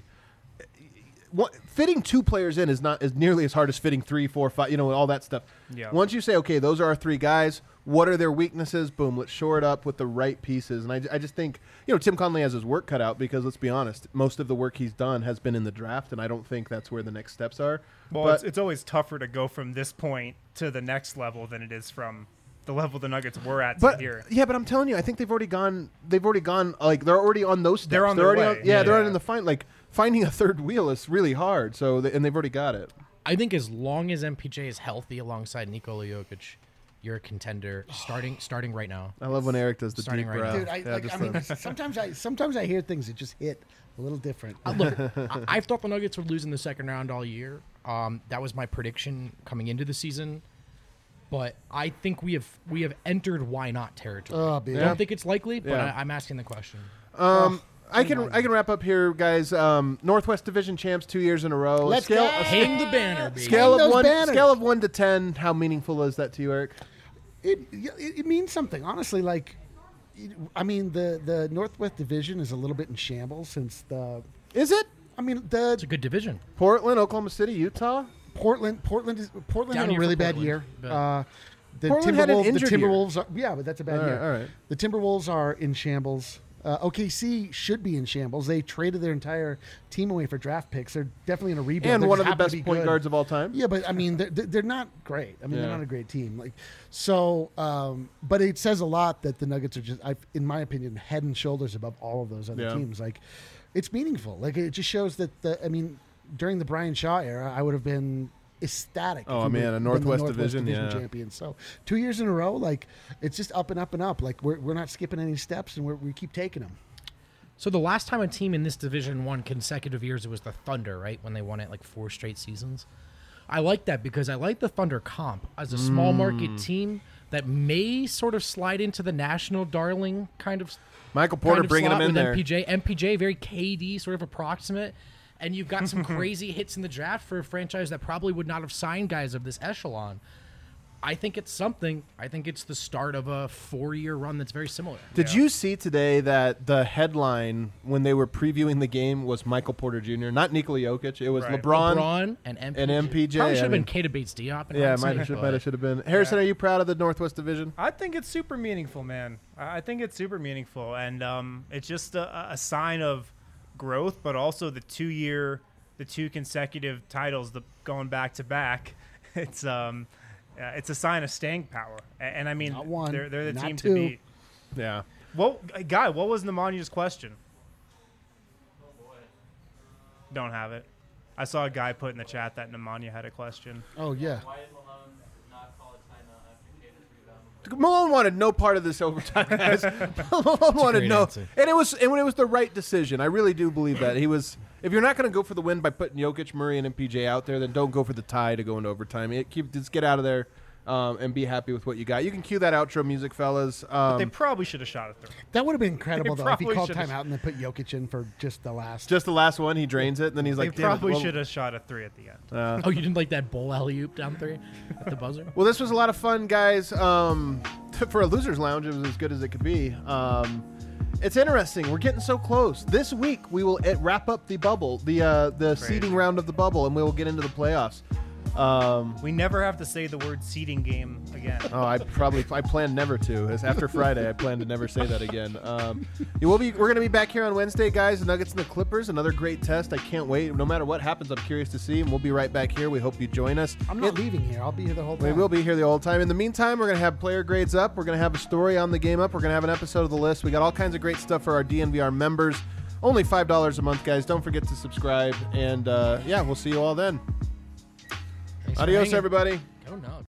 D: Fitting 2 players in is not as nearly as hard as fitting 3, 4, 5. All that stuff.
A: Yeah.
D: Once you say, okay, those are our 3 guys. What are their weaknesses? Boom, let's shore it up with the right pieces. And I just think, Tim Conley has his work cut out because, let's be honest, most of the work he's done has been in the draft, and I don't think that's where the next steps are.
A: Well,
D: but
A: it's always tougher to go from this point to the next level than it is from the level the Nuggets were at to here.
D: Yeah, but I'm telling you, I think they've already gone. Like they're already on those steps.
A: They're on their
D: already
A: way.
D: they're
A: Yeah.
D: in the find. Like finding a third wheel is really hard. So and they've already got it.
F: I think as long as MPJ is healthy alongside Nikola Jokic, you're a contender starting right now.
D: I love when Eric does the
F: Starting
D: deep
F: right
D: breath.
E: Dude,
D: Yeah,
E: sometimes I hear things that just hit a little different.
F: Look, I thought the Nuggets would lose in the second round all year. That was my prediction coming into the season. But I think we have entered why not territory.
E: Oh, baby.
F: I don't think it's likely, but
D: Yeah.
F: I'm asking the question.
D: I can wrap up here, guys. Northwest Division champs 2 years in a row.
E: Let's
D: scale,
E: go.
F: Hang the banner, baby.
D: Scale
E: Hang
D: of
E: those
D: 1
E: banners.
D: scale of 1 to 10. How meaningful is that to you, Eric?
E: It means something, honestly. Like, I mean, the Northwest Division is a little bit in shambles since the.
D: Is it
E: I mean,
F: It's a good division.
D: Portland, Oklahoma City, Utah?
E: Portland
F: Down
E: had a
F: here
E: really
F: for
E: bad
F: Portland,
E: year.
F: but-
E: The
D: Portland had an
E: Timberwolves,
D: injured
E: the
D: year.
E: Timberwolves are, yeah, but that's a bad
D: All right,
E: year.
D: all right.
E: The Timberwolves are in shambles. OKC should be in shambles. They traded their entire team away for draft picks. They're definitely in a rebuild.
D: And
E: They
D: one
E: just
D: of the
E: happen to
D: best
E: be
D: point
E: good.
D: guards of all time.
E: Yeah, but I mean, they're not great. I mean,
D: Yeah.
E: they're not a great team. Like, so, but it says a lot that the Nuggets are just, in my opinion, head and shoulders above all of those other
D: Yeah.
E: teams. Like, it's meaningful. Like, it just shows that during the Brian Shaw era, I would have been ecstatic.
D: Oh,
E: if we
D: man,
E: would've
D: a
E: been
D: Northwest
E: the
D: Division, yeah.
E: champions. So 2 years in a row, like, it's just up and up and up. Like, we're not skipping any steps, and we keep taking them.
F: So the last time a team in this division won consecutive years, it was the Thunder, right? When they won it like 4 straight seasons. I like that because I like the Thunder comp as a small market team that may sort of slide into the national darling kind of.
D: Michael Porter
F: kind of
D: bringing
F: slot
D: him in
F: with
D: there.
F: MPJ, very KD, sort of approximate. And you've got some crazy hits in the draft for a franchise that probably would not have signed guys of this echelon. I think it's something. I think it's the start of a 4-year run that's very similar.
D: Did you see today that the headline when they were previewing the game was Michael Porter Jr., not Nikola Jokic? It was
A: Right.
D: LeBron.
F: and MPJ.
D: and MPJ,
F: Probably should
D: I
F: have been
D: mean-
F: Keita Bates-Diop. in
D: Yeah,
F: hindsight,
D: might have should have been. Harrison, are you proud of the Northwest Division?
A: I think it's super meaningful, man. I think it's super meaningful, and it's just a sign of growth, but also the 2 consecutive titles, going back to back. It's a sign of staying power, and I mean,
E: Not one,
A: they're the
E: not
A: team
E: two.
A: to beat.
D: Yeah.
A: Well, Guy, what was Nemanya's question? Don't have it. I saw a guy put in the chat that Nemanja had a question.
E: Oh, yeah.
H: Why is Malone not called a timeout after Kata's rebound?
D: Malone wanted no part of this overtime, guys. Malone wanted
F: great
D: no,
F: answer.
D: and it was the right decision. I really do believe that he was. If you're not going to go for the win by putting Jokic, Murray, and MPJ out there, then don't go for the tie to go into overtime. Just get out of there and be happy with what you got. You can cue that outro music, fellas.
A: They probably should have shot it through.
E: That would have been incredible,
A: They
E: though, if he
A: probably
E: called
A: should've-
E: timeout and then put Jokic in for just the last.
D: Just the last one, he drains it, and then he's
A: They
D: like, "Damn it,
A: probably
D: well-
A: should have shot a 3 at the end.
F: Oh, you didn't like that bull alley-oop down 3 at the buzzer?
D: Well, this was a lot of fun, guys. For a losers lounge, it was as good as it could be. It's interesting. We're getting so close. This week we will wrap up the bubble, the seeding round of the bubble, and we will get into the playoffs.
A: We never have to say the word seeding game again.
D: Oh, I plan never to. As after Friday, I plan to never say that again. We're going to be back here on Wednesday, guys. The Nuggets and the Clippers, another great test. I can't wait. No matter what happens, I'm curious to see, and we'll be right back here. We hope you join us.
E: I'm not leaving here. I'll be here the whole time.
D: We will be here the whole time. In the meantime, we're going to have player grades up. We're going to have a story on the game up. We're going to have an episode of the list. We got all kinds of great stuff for our DNVR members. Only $5 a month, guys. Don't forget to subscribe. And, we'll see you all then.
F: Thanks for
D: Adios,
F: hanging.
D: everybody.
F: Go Nugs.